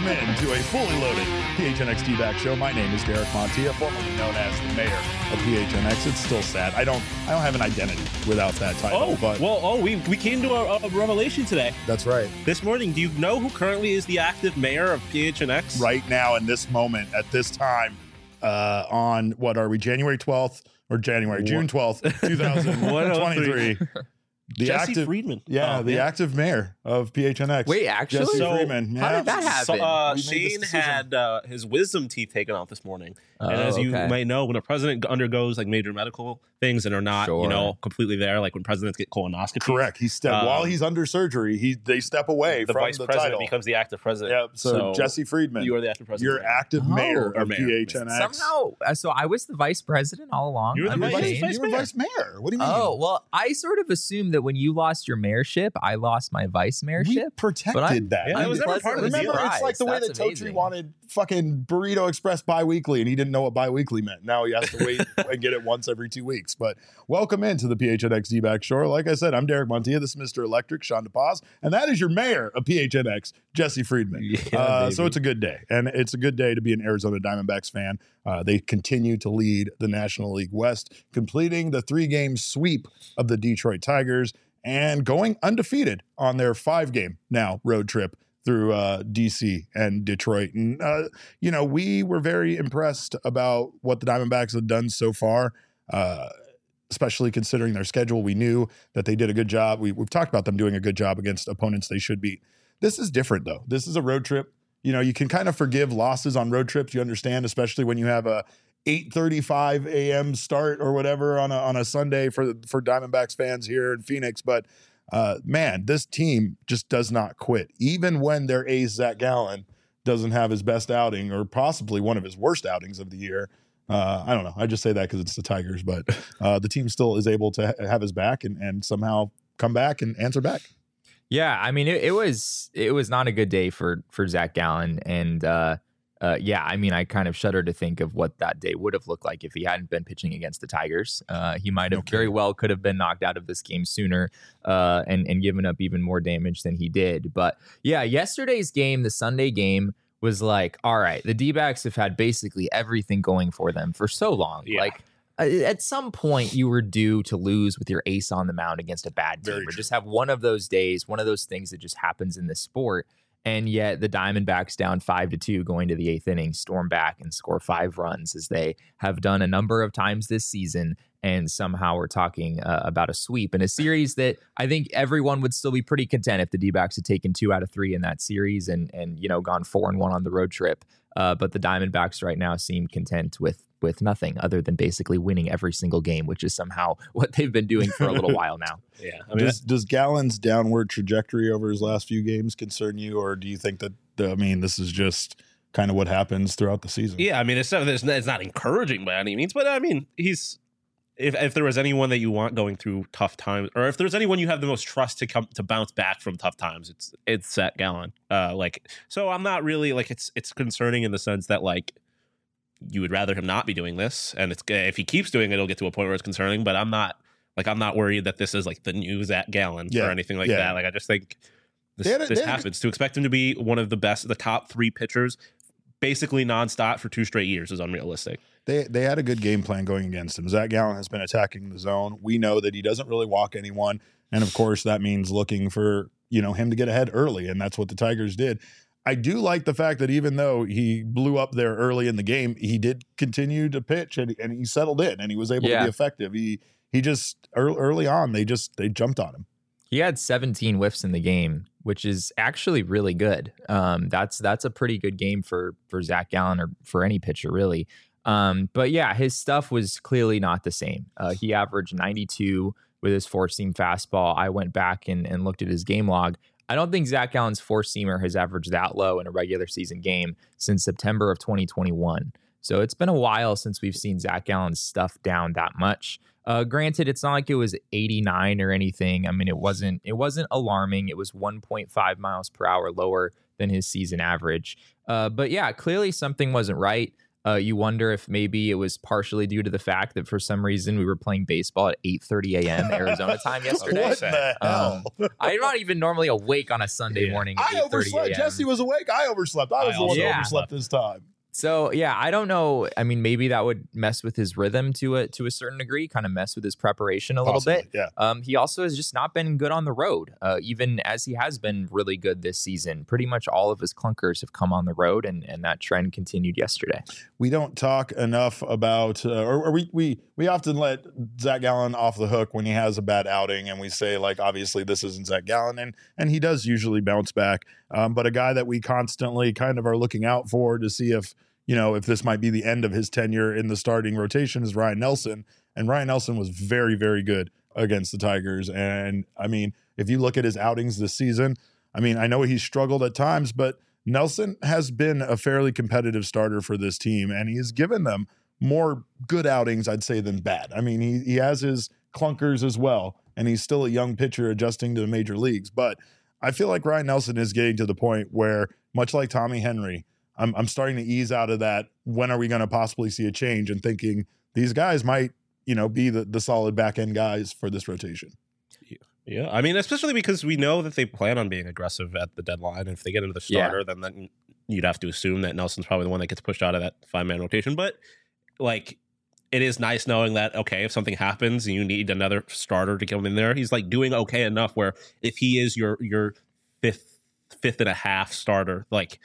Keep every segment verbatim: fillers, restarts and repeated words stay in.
Welcome in to a fully loaded P H N X D-Back show. My name is Derek Montilla, formerly known as the mayor of P H N X. It's still sad. I don't I don't have an identity without that title. Oh, but well, oh, we, we came to a, a revelation today. That's right. This morning, do you know who currently is the active mayor of P H N X? Right now, in this moment, at this time, uh, on, what are we, January twelfth? Or January, June twelfth, twenty twenty-three. The Jesse active, Friedman. Yeah, oh, the yeah. active mayor of P H N X. Wait, actually? Jesse So, Friedman. How Yeah. did that happen? So, uh, We made this Shane decision. had uh, his wisdom teeth taken out this morning. Oh, and as you okay. might know, when a president undergoes like major medical things and are not, Sure. you know, completely there, like when presidents get colonoscopy. Correct. He step Um, while he's under surgery. He they step away The from vice the president title. becomes the active president. Yep. So, Jesse Friedman, You are the active president. you're active Oh, mayor or of mayor. P H N X. Somehow, uh, so I was the vice president all along. You were the under vice- Shane? vice you were mayor. vice mayor. What do you mean? Oh, well, I sort of assumed that when you lost your mayorship, I lost my vice we mayorship. protected but I'm- that. Yeah, it was never part of the deal. Remember, it's like the way that That's Totri amazing. wanted fucking Burrito Express bi-weekly, and he didn't know what bi-weekly meant. Now he has to wait and get it once every two weeks. But welcome into the P H N X D-Back Show. Like I said, I'm Derek Montilla. This is Mister Electric, Sean DePaz, and that is your mayor of P H N X, Jesse Friedman. Yeah, uh, so baby. it's a good day, and it's a good day to be an Arizona Diamondbacks fan. Uh, they continue to lead the National League West, completing the three-game sweep of the Detroit Tigers and going undefeated on their five-game now road trip through uh, D C and Detroit. And, uh, you know, we were very impressed about what the Diamondbacks had done so far, uh, especially considering their schedule. We knew that they did a good job. We, we've talked about them doing a good job against opponents they should beat. This is different, though. This is a road trip. You know, you can kind of forgive losses on road trips. You understand, especially when you have a eight thirty-five a.m. start or whatever on a, on a Sunday for, for Diamondbacks fans here in Phoenix. But Uh, man, this team just does not quit. Even when their ace, Zach Gallen, doesn't have his best outing or possibly one of his worst outings of the year. Uh, I don't know. I just say that because it's the Tigers, but uh, the team still is able to ha- have his back and, and somehow come back and answer back. Yeah, I mean, it, it was it was not a good day for for Zach Gallen, and uh, uh, yeah, I mean, I kind of shudder to think of what that day would have looked like if he hadn't been pitching against the Tigers. Uh, he might have Okay. very well could have been knocked out of this game sooner uh, and and given up even more damage than he did. But yeah, yesterday's game, the Sunday game, was like, all right, the D-backs have had basically everything going for them for so long. Yeah. Like, uh, at some point, you were due to lose with your ace on the mound against a bad team, Very or true. just have one of those days, one of those things that just happens in this sport. And yet the Diamondbacks down five to two going to the eighth inning, storm back and score five runs as they have done a number of times this season. And somehow we're talking uh, about a sweep in a series that I think everyone would still be pretty content if the D-backs had taken two out of three in that series and, and you know, gone four and one on the road trip. Uh, but the Diamondbacks right now seem content with with nothing other than basically winning every single game, which is somehow what they've been doing for a little while now. Yeah. I mean, Does, does Gallen's downward trajectory over his last few games concern you, or do you think that, I mean, this is just kind of what happens throughout the season? yeah, I mean, it's not, it's not it's not encouraging by any means, but I mean, he's if if there was anyone that you want going through tough times, or if there's anyone you have the most trust to come to bounce back from tough times, it's it's Zach Gallen. Uh, like, so I'm not really like it's it's concerning in the sense that like you would rather him not be doing this, and it's if he keeps doing it, it'll get to a point where it's concerning. But I'm not like I'm not worried that this is like the new Zach Gallen Yeah, or anything like yeah. that. Like I just think this, They had a- this they had a- happens. To expect him to be one of the best, the top three pitchers, basically nonstop for two straight years is unrealistic. They they had a good game plan going against him. Zach Gallen has been attacking the zone. We know that he doesn't really walk anyone, and of course that means looking for, you know, him to get ahead early, and that's what the Tigers did. I do like the fact that even though he blew up there early in the game, he did continue to pitch and, and he settled in and he was able Yeah. to be effective. He he just early, early on they just they jumped on him. He had seventeen whiffs in the game, which is actually really good. Um, that's that's a pretty good game for for Zach Gallen or for any pitcher, really. Um, but yeah, his stuff was clearly not the same. Uh, he averaged ninety-two with his four-seam fastball. I went back and, and looked at his game log. I don't think Zach Gallen's four-seamer has averaged that low in a regular season game since September of twenty twenty-one. So it's been a while since we've seen Zach Gallen's stuff down that much. Uh, granted, it's not like it was eighty-nine or anything. I mean, it wasn't it wasn't alarming. It was one point five miles per hour lower than his season average. Uh, but yeah, clearly something wasn't right. Uh, you wonder if maybe it was partially due to the fact that for some reason we were playing baseball at eight thirty a.m. Arizona time yesterday. What the hell? Um, I'm not even normally awake on a Sunday Yeah. morning at I eight thirty overslept. a.m. Jesse was awake. I overslept. I was I the one also that Yeah. overslept this time. So yeah, I don't know. I mean, maybe that would mess with his rhythm to a to a certain degree, kind of mess with his preparation a little Possibly, bit. yeah. Um, he also has just not been good on the road, uh, even as he has been really good this season. Pretty much all of his clunkers have come on the road, and and that trend continued yesterday. We don't talk enough about, uh, or, or we we we often let Zach Gallen off the hook when he has a bad outing, and we say like, obviously this isn't Zach Gallen, and and he does usually bounce back. Um, but a guy that we constantly kind of are looking out for to see if, you know, if this might be the end of his tenure in the starting rotation is Ryan Nelson. And Ryan Nelson was very, very good against the Tigers. And I mean, if you look at his outings this season, I mean, I know he's struggled at times, but Nelson has been a fairly competitive starter for this team, and he has given them more good outings, I'd say, than bad. I mean, he, he has his clunkers as well, and he's still a young pitcher adjusting to the major leagues. But I feel like Ryan Nelson is getting to the point where, much like Tommy Henry, I'm, I'm starting to ease out of that. When are we going to possibly see a change? And thinking these guys might, you know, be the, the solid back end guys for this rotation. Yeah, I mean, especially because we know that they plan on being aggressive at the deadline. If they get into the starter, then, then you'd have to assume that Nelson's probably the one that gets pushed out of that five-man rotation. But, like, it is nice knowing that, okay, if something happens and you need another starter to come in there, he's, like, doing okay enough where if he is your your fifth, fifth and a half starter, like,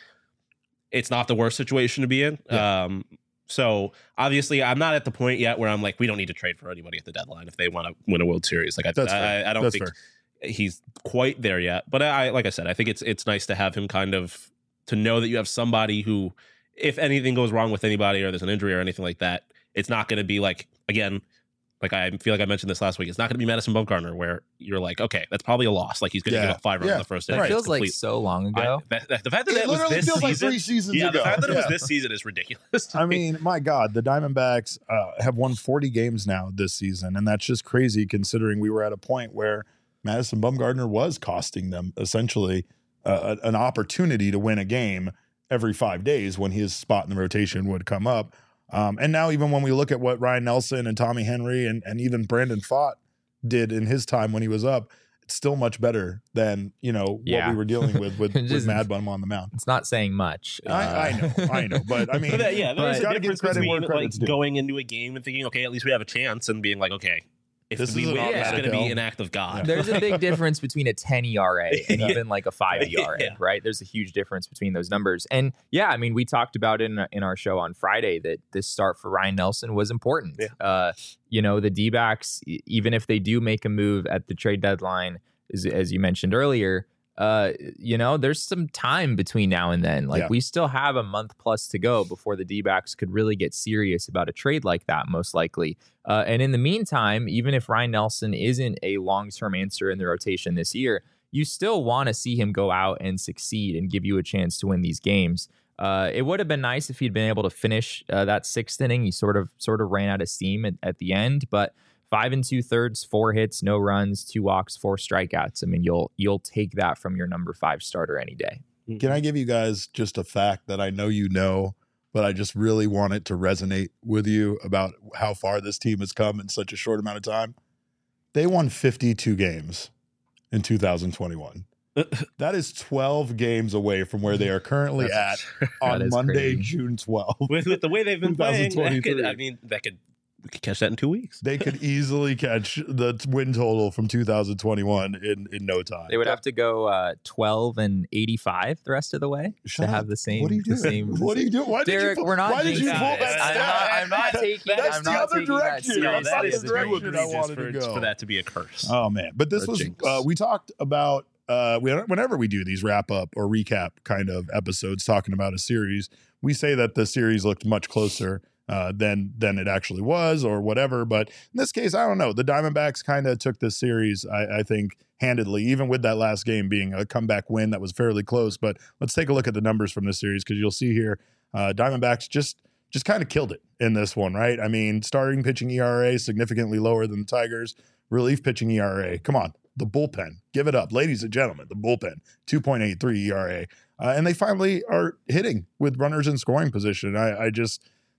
it's not the worst situation to be in. Yeah. Um So obviously, I'm not at the point yet where I'm like, we don't need to trade for anybody at the deadline if they want to win a World Series. Like, I, That's I, fair. I don't That's think fair. he's quite there yet. But I, like I said, I think it's it's nice to have him kind of to know that you have somebody who, if anything goes wrong with anybody or there's an injury or anything like that, it's not going to be like, again, like I feel like I mentioned this last week, it's not going to be Madison Bumgarner where you're like, okay, that's probably a loss. Like, he's going to Yeah. give up five runs Yeah. in the first That inning. feels It's like complete- so long I- ago. that- that- the fact that It that was literally this feels like season, three seasons yeah, ago. the fact that it was Yeah. this season is ridiculous. to I me. mean, my God, the Diamondbacks uh, have won forty games now this season, and that's just crazy considering we were at a point where Madison Bumgarner was costing them essentially uh, an opportunity to win a game every five days when his spot in the rotation would come up. Um, and now even when we look at what Ryan Nelson and Tommy Henry and, and even Brandon Pfaadt did in his time when he was up, it's still much better than, you know, what Yeah. we were dealing with with, with Just- Mad Bum on the mound. It's not saying much. I, I Uh, know, I know, but I mean, But that- yeah, there's but- a gotta give difference credit where between like credit's due. going into a game and thinking, okay, at least we have a chance, and being like, okay, if This we is an win, it's automatic going to be L. an act of God. There's a big difference between a ten E R A and Yeah. even like a five E R A, Yeah. right? There's a huge difference between those numbers. And yeah, I mean, we talked about in in our show on Friday that this start for Ryan Nelson was important. Yeah. Uh, you know, the D-backs, e- even if they do make a move at the trade deadline, as, as you mentioned earlier, uh, you know, there's some time between now and then. Like Yeah. we still have a month plus to go before the D-backs could really get serious about a trade like that, most likely. Uh, and in the meantime, even if Ryan Nelson isn't a long-term answer in the rotation this year, you still want to see him go out and succeed and give you a chance to win these games. Uh, it would have been nice if he'd been able to finish uh, that sixth inning. He sort of sort of ran out of steam at, at the end, but five and two thirds, four hits, no runs, two walks, four strikeouts. I mean, you'll you'll take that from your number five starter any day. Can I give you guys just a fact that I know you know, but I just really want it to resonate with you about how far this team has come in such a short amount of time? They won fifty-two games in two thousand twenty-one. That is twelve games away from where they are currently at on That is Monday, crazy. June twelfth. with, with the way they've been playing, that could, twenty-three. I mean, that could we could catch that in two weeks. They could easily catch the t- win total from two thousand twenty-one in, in no time. They would have to go uh, twelve and eighty-five the rest of the way Shut to up. have the same. What are you the doing? same, What are you doing? Why Derek, did you, we're not why did you jinxing pull it. that I'm stat? not- I'm not taking- That's I'm the not other taking that direction. seriously. That's not the That's direction I egregious wanted for, to go. for that to be a curse. Oh man, but this A was jinx. uh, we talked about uh, we, whenever we do these wrap up or recap kind of episodes talking about a series, we say that the series looked much closer uh, than than it actually was or whatever. But in this case, I don't know. The Diamondbacks kind of took this series, I, I think, handedly, even with that last game being a comeback win that was fairly close. But let's take a look at the numbers from this series because you'll see here, uh, Diamondbacks just just kind of killed it in this one, right? I mean, starting pitching E R A significantly lower than the Tigers. Relief pitching E R A. Come on, the bullpen. Give it up. Ladies and gentlemen, the bullpen. two point eight three E R A. Uh, and they finally are hitting with runners in scoring position. I, I just,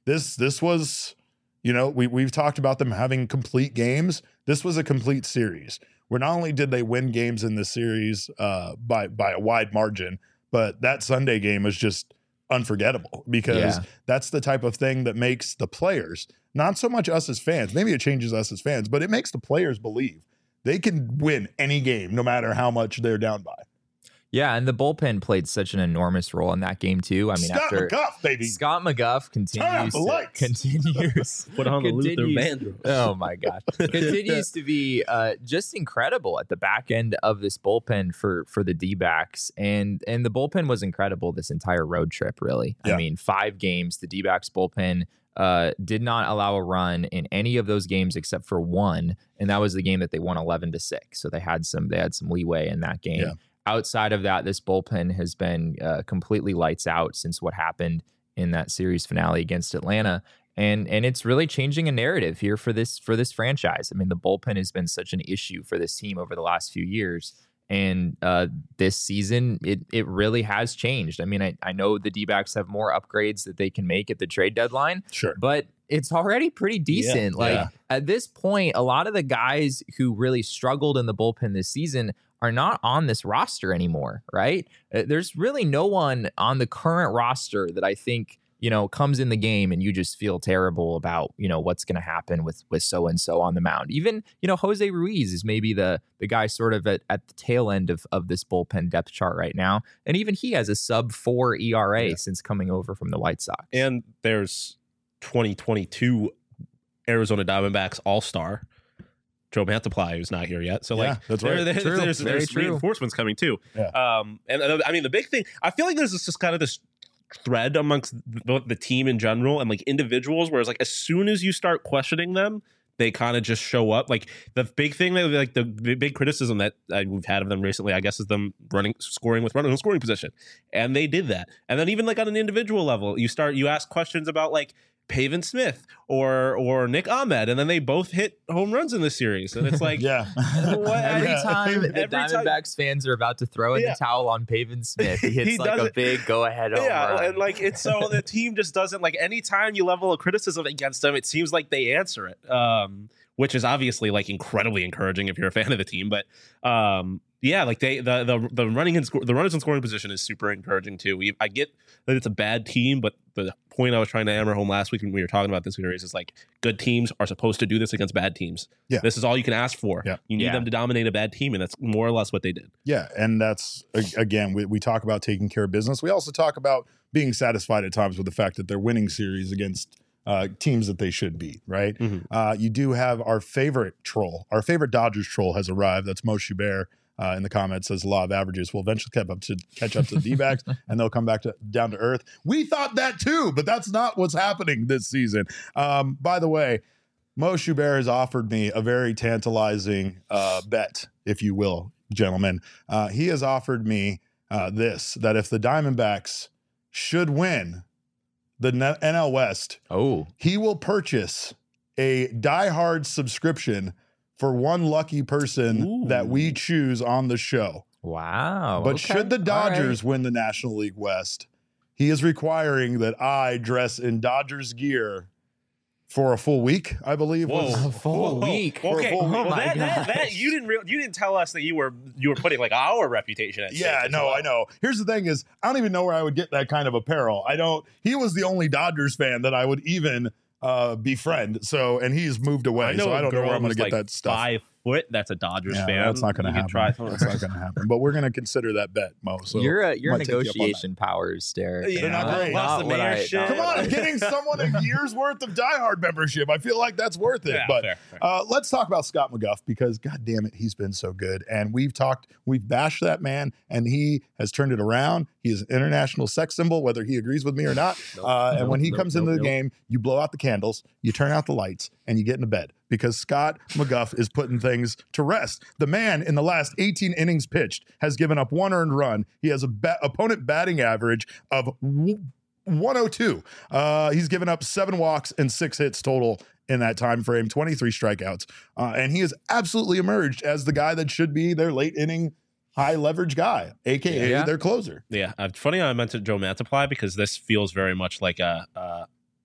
this this was, you know, we we've talked about them having complete games. This was a complete series where not only did they win games in the series uh, by by a wide margin, but that Sunday game was just unforgettable because Yeah. that's the type of thing that makes the players, not so much us as fans, maybe it changes us as fans, but it makes the players believe they can win any game no matter how much they're down by. Yeah, and the bullpen played such an enormous role in that game too. I mean, Scott after McGuff, baby. Scott McGuff continues the to, lights. continues Put on the Luther continues- Vandross. Oh my gosh, continues to be uh, just incredible at the back end of this bullpen for for the D-backs, and and the bullpen was incredible this entire road trip. Really, Yeah. I mean, five games, the D-backs bullpen uh, did not allow a run in any of those games except for one, and that was the game that they won eleven to six. So they had some they had some leeway in that game. Yeah. Outside of that, this bullpen has been uh, completely lights out since what happened in that series finale against Atlanta, and and it's really changing a narrative here for this for this franchise. I mean, the bullpen has been such an issue for this team over the last few years, and uh, this season it it really has changed. I mean, I, I know the D-backs have more upgrades that they can make at the trade deadline, Sure. but it's already pretty decent. like yeah. at this point, a lot of the guys who really struggled in the bullpen this season are not on this roster anymore, right? Uh, There's really no one on the current roster that I think, you know, comes in the game and you just feel terrible about, you know, what's going to happen with with so and so on the mound. Even, you know, Jose Ruiz is maybe the the guy sort of at, at the tail end of of this bullpen depth chart right now, and even he has a sub four E R A Yeah. since coming over from the White Sox. And there's twenty twenty-two Arizona Diamondbacks All-Star Joe Mantiply, who's not here yet. So Yeah, like, that's there, right. there- True. there's, Very there's true. reinforcements coming too. Yeah. Um, and uh, I mean, the big thing, I feel like there's this just kind of this thread amongst the, the team in general and like individuals, whereas like as soon as you start questioning them, they kind of just show up. Like the big thing that like the big criticism that uh, we've had of them recently, I guess, is them running, scoring with running in scoring position, and they did that. And then even like on an individual level, you start you ask questions about like Pavin Smith or or Nick Ahmed, and then they both hit home runs in this series, and it's like, Yeah. What? Every Yeah. time the Every time- Diamondbacks fans are about to throw in Yeah. the towel on Pavin Smith, he hits He like does a it. big go-ahead home yeah, run. and like it's so the team just doesn't like anytime you level a criticism against them, it seems like they answer it, um, which is obviously like incredibly encouraging if you're a fan of the team. But um, yeah, like they the the the running and score, the runners in scoring position is super encouraging too. We, I get that it's a bad team, but the point I was trying to hammer home last week when we were talking about this series is like good teams are supposed to do this against bad teams. Yeah. This is all you can ask for. Yeah. You need Yeah. them to dominate a bad team, and that's more or less what they did. Yeah, and that's a- again, we, we talk about taking care of business. We also talk about being satisfied at times with the fact that they're winning series against uh, teams that they should beat. Right? Mhm. Uh, you do have our favorite troll, our favorite Dodgers troll has arrived. That's Mo Schubert. Uh, in the comments says law of averages will eventually catch up to catch up to the D-backs and they'll come back to down to earth. We thought that too, but that's not what's happening this season. Um, by the way, Mo Schubert has offered me a very tantalizing uh, bet, if you will, gentlemen. Uh, he has offered me uh, this, that if the Diamondbacks should win the N L West, oh, he will purchase a diehard subscription for one lucky person Ooh. that we choose on the show. wow. But Okay. should the All Dodgers right. win the National League West, he is requiring that I dress in Dodgers gear for a full week, I believe. was- A full week. For a Okay, full well, week. Oh my that, that, that gosh. you didn't real, you didn't tell us that you were you were putting like our reputation at stake. Yeah, as no, well. I know. Here's the thing is, I don't even know where I would get that kind of apparel. I don't, he was the only Dodgers fan that I would even uh, befriend. So, and he's moved away. I know so a I don't know girl where I'm going who's to get like that stuff. Five foot. That's a Dodgers Yeah, fan. that's not going to You happen. could try some- That's not going to happen. But we're going to consider that bet, Mo. So Your uh, your might take you up on that. negotiation powers, Derek. Yeah, They're not great. Plus the what I- mayorship. not Come what on, I- I'm getting someone a year's worth of diehard membership. I feel like that's worth it. Yeah, but fair, fair. Uh, let's talk about Scott McGuff because, God damn it, he's been so good. And we've talked, we've bashed that man, and he has turned it around. He is an international sex symbol, whether he agrees with me or not. Nope, uh, and nope, when he nope, comes nope, into the nope. game, you blow out the candles, you turn out the lights, and you get into bed because Scott McGuff is putting things to rest. The man in the last eighteen innings pitched has given up one earned run. He has a ba- opponent batting average of w- one oh two. Uh, he's given up seven walks and six hits total in that time frame, twenty-three strikeouts. Uh, and he has absolutely emerged as the guy that should be their late inning high leverage guy, A K A Yeah. their closer. Yeah, uh, funny how I mentioned Joe Mantiply because this feels very much like a uh,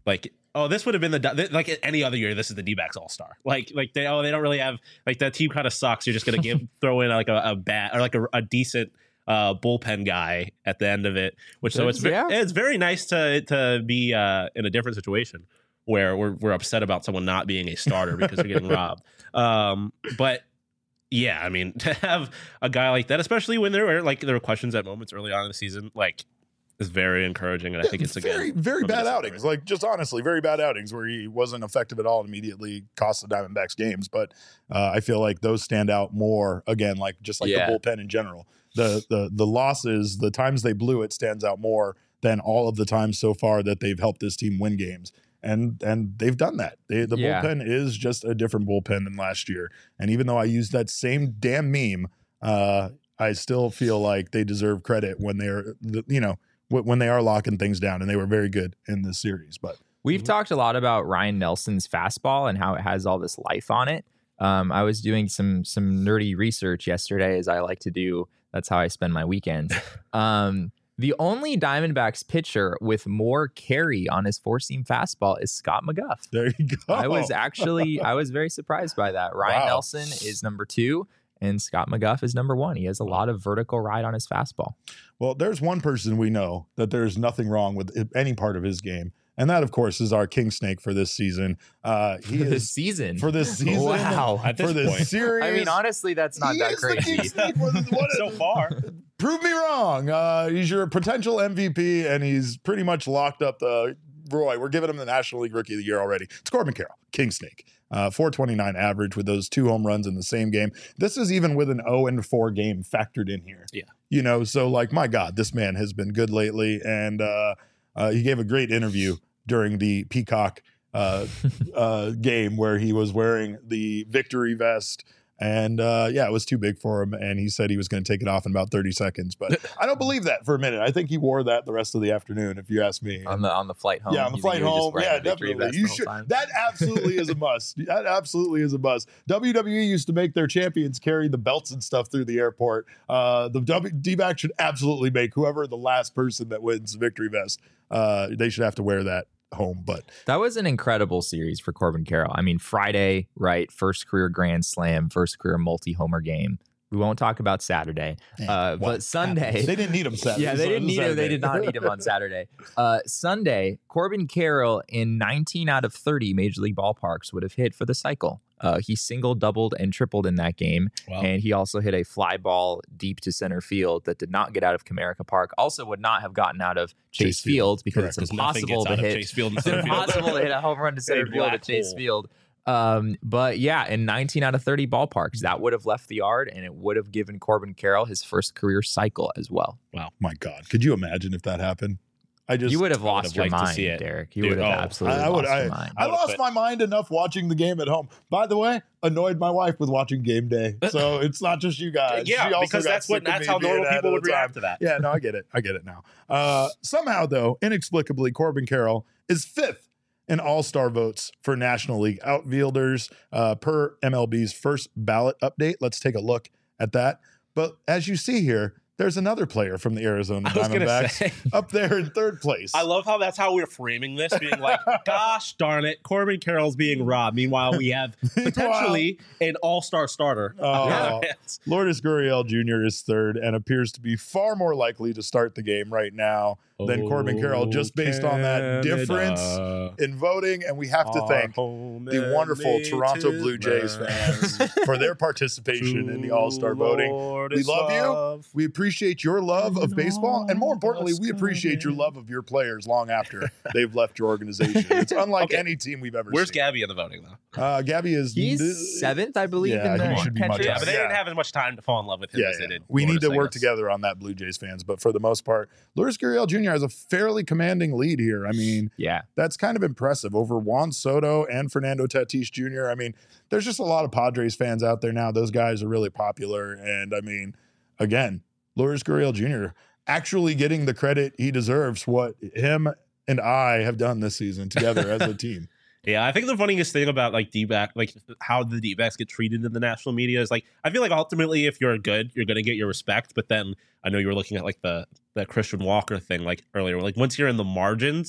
like, oh, this would have been the like any other year. This is the D-backs all star. Like, like they oh they don't really have like that team kind of sucks. You're just gonna give throw in like a, a bat or like a, a decent uh, bullpen guy at the end of it. Which so it's ve- yeah. it's very nice to to be uh, in a different situation where we're we're upset about someone not being a starter because they're getting robbed. Um, but yeah, I mean to have a guy like that, especially when there were like there were questions at moments early on in the season, like. Is very encouraging, and I think it's a very, good, very bad outings. Like just honestly, very bad outings where he wasn't effective at all and immediately cost the Diamondbacks games. But uh, I feel like those stand out more again, like just like Yeah. the bullpen in general. The the the losses, the times they blew it, stands out more than all of the times so far that they've helped this team win games. And and they've done that. They, the Yeah. bullpen is just a different bullpen than last year. And even though I used that same damn meme, uh, I still feel like they deserve credit when they're you know. when they are locking things down, and they were very good in this series. But We've talked a lot about Ryan Nelson's fastball and how it has all this life on it. Um, I was doing some some nerdy research yesterday, as I like to do. That's how I spend my weekends. Um, the only Diamondbacks pitcher with more carry on his four-seam fastball is Scott McGough. there you go. I was actually I was very surprised by that. Ryan Wow. Nelson is number two, and Scott McGough is number one. He has a lot of vertical ride on his fastball. Well, there's one person we know that there's nothing wrong with any part of his game, and that, of course, is our King Snake for this season. Uh, he For is this season. for this season. Wow. At this for this point. series. I mean, honestly, that's not he that is the King crazy. Snake for the, what, so far. Prove me wrong. Uh, he's your potential M V P, and he's pretty much locked up the Roy. We're giving him the National League Rookie of the Year already. It's Corbin Carroll, King Snake. Uh, four twenty-nine average with those two home runs in the same game. This is even with an oh and four game factored in here. Yeah. You know, so like, my God, this man has been good lately. And uh, uh, he gave a great interview during the Peacock uh, uh, game where he was wearing the victory vest. And uh, yeah, it was too big for him. And he said he was going to take it off in about thirty seconds. But I don't believe that for a minute. I think he wore that the rest of the afternoon, if you ask me. on the on the flight home. Yeah, on the You think flight he was just home. wearing Yeah, the victory definitely. vest You the whole should. time? That absolutely is a must. That absolutely is a must. W W E used to make their champions carry the belts and stuff through the airport. Uh, the w- D-back should absolutely make whoever the last person that wins the victory vest. Uh, they should have to wear that home. But That was an incredible series for Corbin Carroll. I mean, Friday, right? First career grand slam, first career multi-homer game. We won't talk about Saturday, uh, what but Sunday. they didn't need him Saturday. Yeah, they so didn't it was need him. They Saturday. did not need him on Saturday. Uh, Sunday, Corbin Carroll in nineteen out of thirty Major League ballparks would have hit for the cycle. Uh, he single, doubled, and tripled in that game. Wow. And he also hit a fly ball deep to center field that did not get out of Comerica Park. Also would not have gotten out of Chase, Chase Field. Field because Correct. it's 'Cause nothing impossible gets to out of hit. Chase Field and It's center field. impossible to hit a home run to center Big field black at Chase hole. Field. Um, but yeah, in nineteen out of thirty ballparks, that would have left the yard, and it would have given Corbin Carroll his first career cycle as well. My God, could you imagine if that happened? I just You would have I would lost have your liked to mind, see it. Derek. You Dude, would have oh, absolutely I- I would- lost your mind. I would've lost put- my mind enough watching the game at home. By the way, annoyed my wife with watching game day. So it's not just you guys. yeah, She also because got that's what sick of that's me how being normal at people all would the time. react to that. Yeah, no, I get it. I get it now. Uh, somehow, though, inexplicably, Corbin Carroll is fifth in all-star votes for National League outfielders uh, per M L B's first ballot update. Let's take a look at that. But as you see here, there's another player from the Arizona I was gonna Diamondbacks say. up there in third place. I love how that's how we're framing this, being like, gosh darn it, Corbin Carroll's being robbed. Meanwhile, we have potentially an all-star starter. on the Oh. other hands. Lourdes Gurriel Junior is third and appears to be far more likely to start the game right now than Corbin Carroll, just based on that difference in voting. And we have to thank the wonderful Toronto Blue Jays fans for their participation in the All-Star voting. We love you. We appreciate your love of baseball. And more importantly, we appreciate your love of your players long after they've left your organization. It's unlike Okay. any team we've ever Where's seen. Gabby in the voting, though? Uh, Gabby is He's seventh, I believe, Yeah, in the he should be much catchers. Yeah, but they Yeah. didn't have as much time to fall in love with him Yeah, as they yeah. did. We need to Lourdes, I work guess. together on that, Blue Jays fans. But for the most part, Lourdes Gurriel Junior has a fairly commanding lead here. I mean, Yeah. that's kind of impressive over Juan Soto and Fernando Tatis Junior I mean, there's just a lot of Padres fans out there now. Those guys are really popular. And I mean, again, Lourdes Gurriel Junior actually getting the credit he deserves, what him and I have done this season together as a team. Yeah, I think the funniest thing about like D-back, like how the D-backs get treated in the national media is like, I feel like ultimately if you're good, you're going to get your respect. But then I know you were looking at like the, the Christian Walker thing like earlier, like once you're in the margins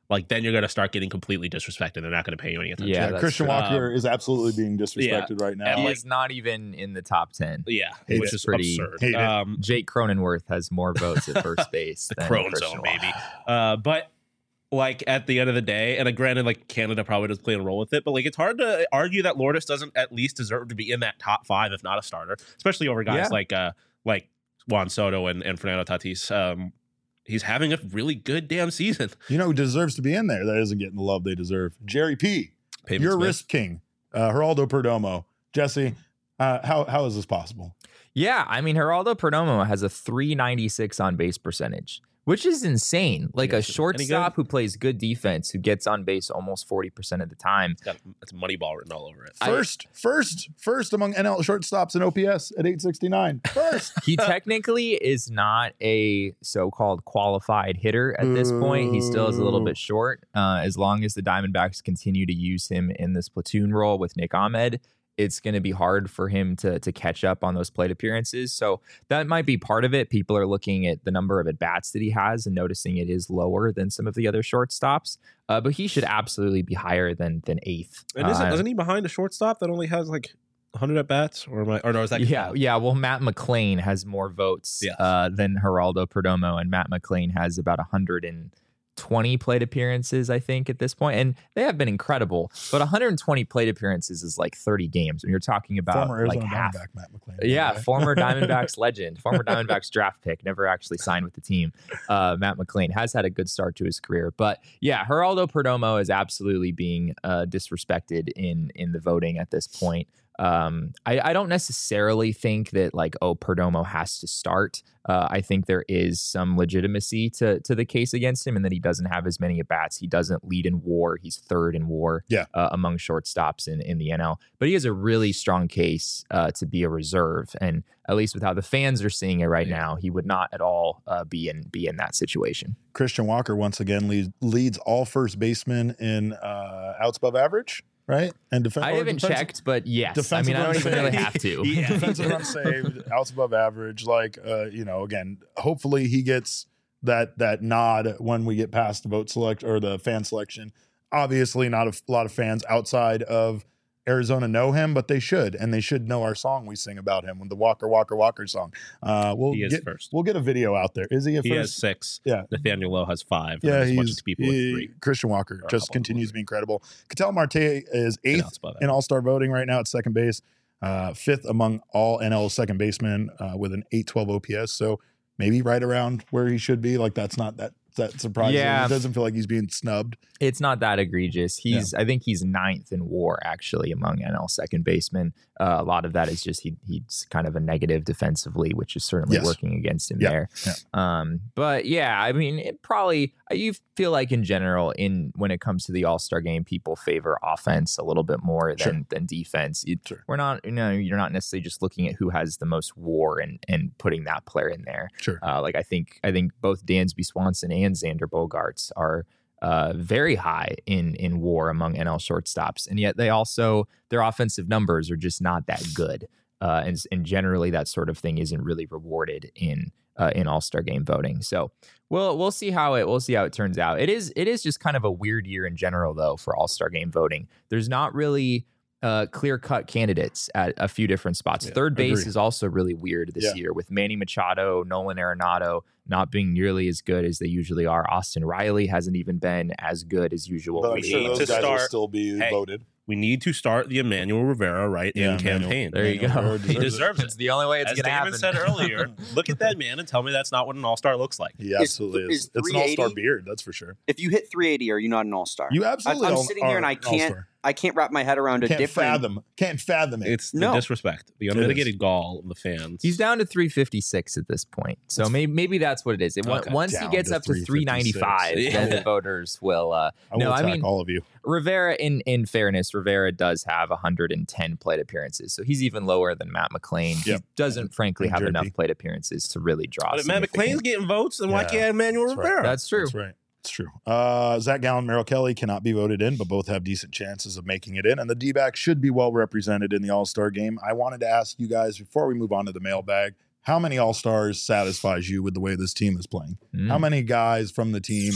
like then you're going to start getting completely disrespected. They're not going to pay you any attention. Yeah, Yeah, that's Christian true. Walker Um, is absolutely being disrespected right now. and, He like- is not even in the top ten. Yeah, Hate which it. is Pretty- absurd. hate it. Um, Jake Cronenworth has more votes at first base. the than Crone Christian Zone, Walker. baby. Uh, but like at the end of the day, and uh, granted, like Canada probably does play a role with it, but like it's hard to argue that Lourdes doesn't at least deserve to be in that top five, if not a starter, especially over guys Yeah. like uh like Juan Soto and, and Fernando Tatis. Um, he's having a really good damn season. You know who deserves to be in there that isn't getting the love they deserve? Jerry P. Pavement Your Smith. wrist king, uh, Geraldo Perdomo. Jesse, uh, how how is this possible? Yeah, I mean, Geraldo Perdomo has a three ninety-six on base percentage, which is insane. Like Yeah, a is it any shortstop good? who plays good defense, who gets on base almost forty percent of the time. It's got it's Moneyball written all over it. I- First, first, first among N L shortstops in O P S at eight sixty-nine. First. He technically is not a so-called qualified hitter at this point. He still is a little Boo. bit short. Uh, as long as the Diamondbacks continue to use him in this platoon role with Nick Ahmed, it's going to be hard for him to to catch up on those plate appearances. So that might be part of it. People are looking at the number of at-bats that he has and noticing it is lower than some of the other shortstops. Uh, but he should absolutely be higher than than eighth. And isn't, Uh, isn't he behind a shortstop that only has like one hundred at bats? Or am I? Or no, is that Yeah, yeah. Well, Matt McClain has more votes Yes. uh, than Geraldo Perdomo, and Matt McClain has about one hundred twenty plate appearances, I think, at this point. And they have been incredible. But one hundred twenty plate appearances is like thirty games. When you're talking about Former like Arizona half. Diamondback Matt McClain. Yeah, Okay. former Diamondbacks legend, former Diamondbacks draft pick, never actually signed with the team. Uh, Matt McClain has had a good start to his career, but yeah, Geraldo Perdomo is absolutely being uh, disrespected in in the voting at this point. Um, I, I don't necessarily think that like, oh, Perdomo has to start. Uh, I think there is some legitimacy to to the case against him, and that he doesn't have as many at bats. He doesn't lead in WAR. He's third in WAR. Yeah. Uh, among shortstops in in the N L. But he has a really strong case uh, to be a reserve, and at least with how the fans are seeing it right Yeah. now, he would not at all uh, be in be in that situation. Christian Walker once again leads, leads all first basemen in uh, outs above average, right? And defen- I or haven't defensive- checked, but yes, I defensive mean I don't runs even really saved. have to. Yeah. defensive run saved, outs above average. Like, uh, you know, again, hopefully he gets that that nod when we get past the vote select or the fan selection. Obviously, not a f- lot of fans outside of Arizona know him, but they should, and they should know our song we sing about him, the Walker Walker Walker song. Uh, we'll He is get first. we'll get a video out there. Is he a He first? has six. Yeah. Nathaniel Lowe has five. Yeah, and as much he's as people with he- three. Christian Walker Or a just couple continues with to be incredible. Cattell Marte is And eighth outs above in that. All Star voting right now at second base, uh, fifth among all N L second basemen uh, with an eight twelve O P S. So maybe right around where he should be. Like that's not that that surprising. Yeah. It doesn't feel like he's being snubbed. It's not that egregious. He's, I think he's ninth in WAR actually among N L second basemen. Uh, a lot of that is just he he's kind of a negative defensively, which is certainly Yes. working against him Yeah, there. yeah. Um, but yeah, I mean, it probably you feel like in general, in when it comes to the All Star game, people favor offense a little bit more Sure. than than defense. It- Sure. We're not, you know, you're not necessarily just looking at who has the most WAR and and putting that player in there. Sure. Uh, like I think I think both Dansby Swanson and Xander Bogaerts are uh, very high in in WAR among N L shortstops, and yet they also their offensive numbers are just not that good. Uh, and and generally that sort of thing isn't really rewarded in uh, in All Star game voting. So we'll we'll see how it we'll see how it turns out. It is it is just kind of a weird year in general though for All Star game voting. There's not really uh, clear-cut candidates at a few different spots. Yeah, Third base agree. is also really weird this Yeah. year with Manny Machado, Nolan Arenado not being nearly as good as they usually are. Austin Riley hasn't even been as good as usual. But I'm we sure need those to guys will start- still be Hey, voted. We need to start the Emmanuel Rivera right Yeah, in Emmanuel. campaign. There you Emmanuel go. Rivera He deserves it. deserves It's it. the only way it's As going to happen. Damon said earlier, look at that man and tell me that's not what an all-star looks like. He absolutely is. is It's an all-star 380 beard, that's for sure. If you hit three eighty, are you not an all star? You absolutely I'm all- sitting here are and I an can't- all-star. I can't wrap my head around a Can't different. fathom. Can't fathom it. It's the No. disrespect, the It unmitigated gall of the fans. He's down to three fifty-six at this point. So maybe maybe that's what it is. It, on- Okay. Once he Down gets to up to three ninety-five, Yeah. then the voters will. Uh, I will no, I attack mean, all of you. Rivera, in, in fairness, Rivera does have one hundred ten plate appearances. So he's even lower than Matt McClain. Yep. He doesn't, frankly, And have J P. enough plate appearances to really draw. But if Matt significant- McClain's getting votes, then why Yeah, can't Emmanuel that's right. Rivera? That's true. That's right. It's true. Uh, Zach Gallen, Merrill Kelly cannot be voted in, but both have decent chances of making it in. And the D-backs should be well represented in the All-Star game. I wanted to ask you guys, before we move on to the mailbag, how many All-Stars satisfies you with the way this team is playing? Mm. How many guys from the team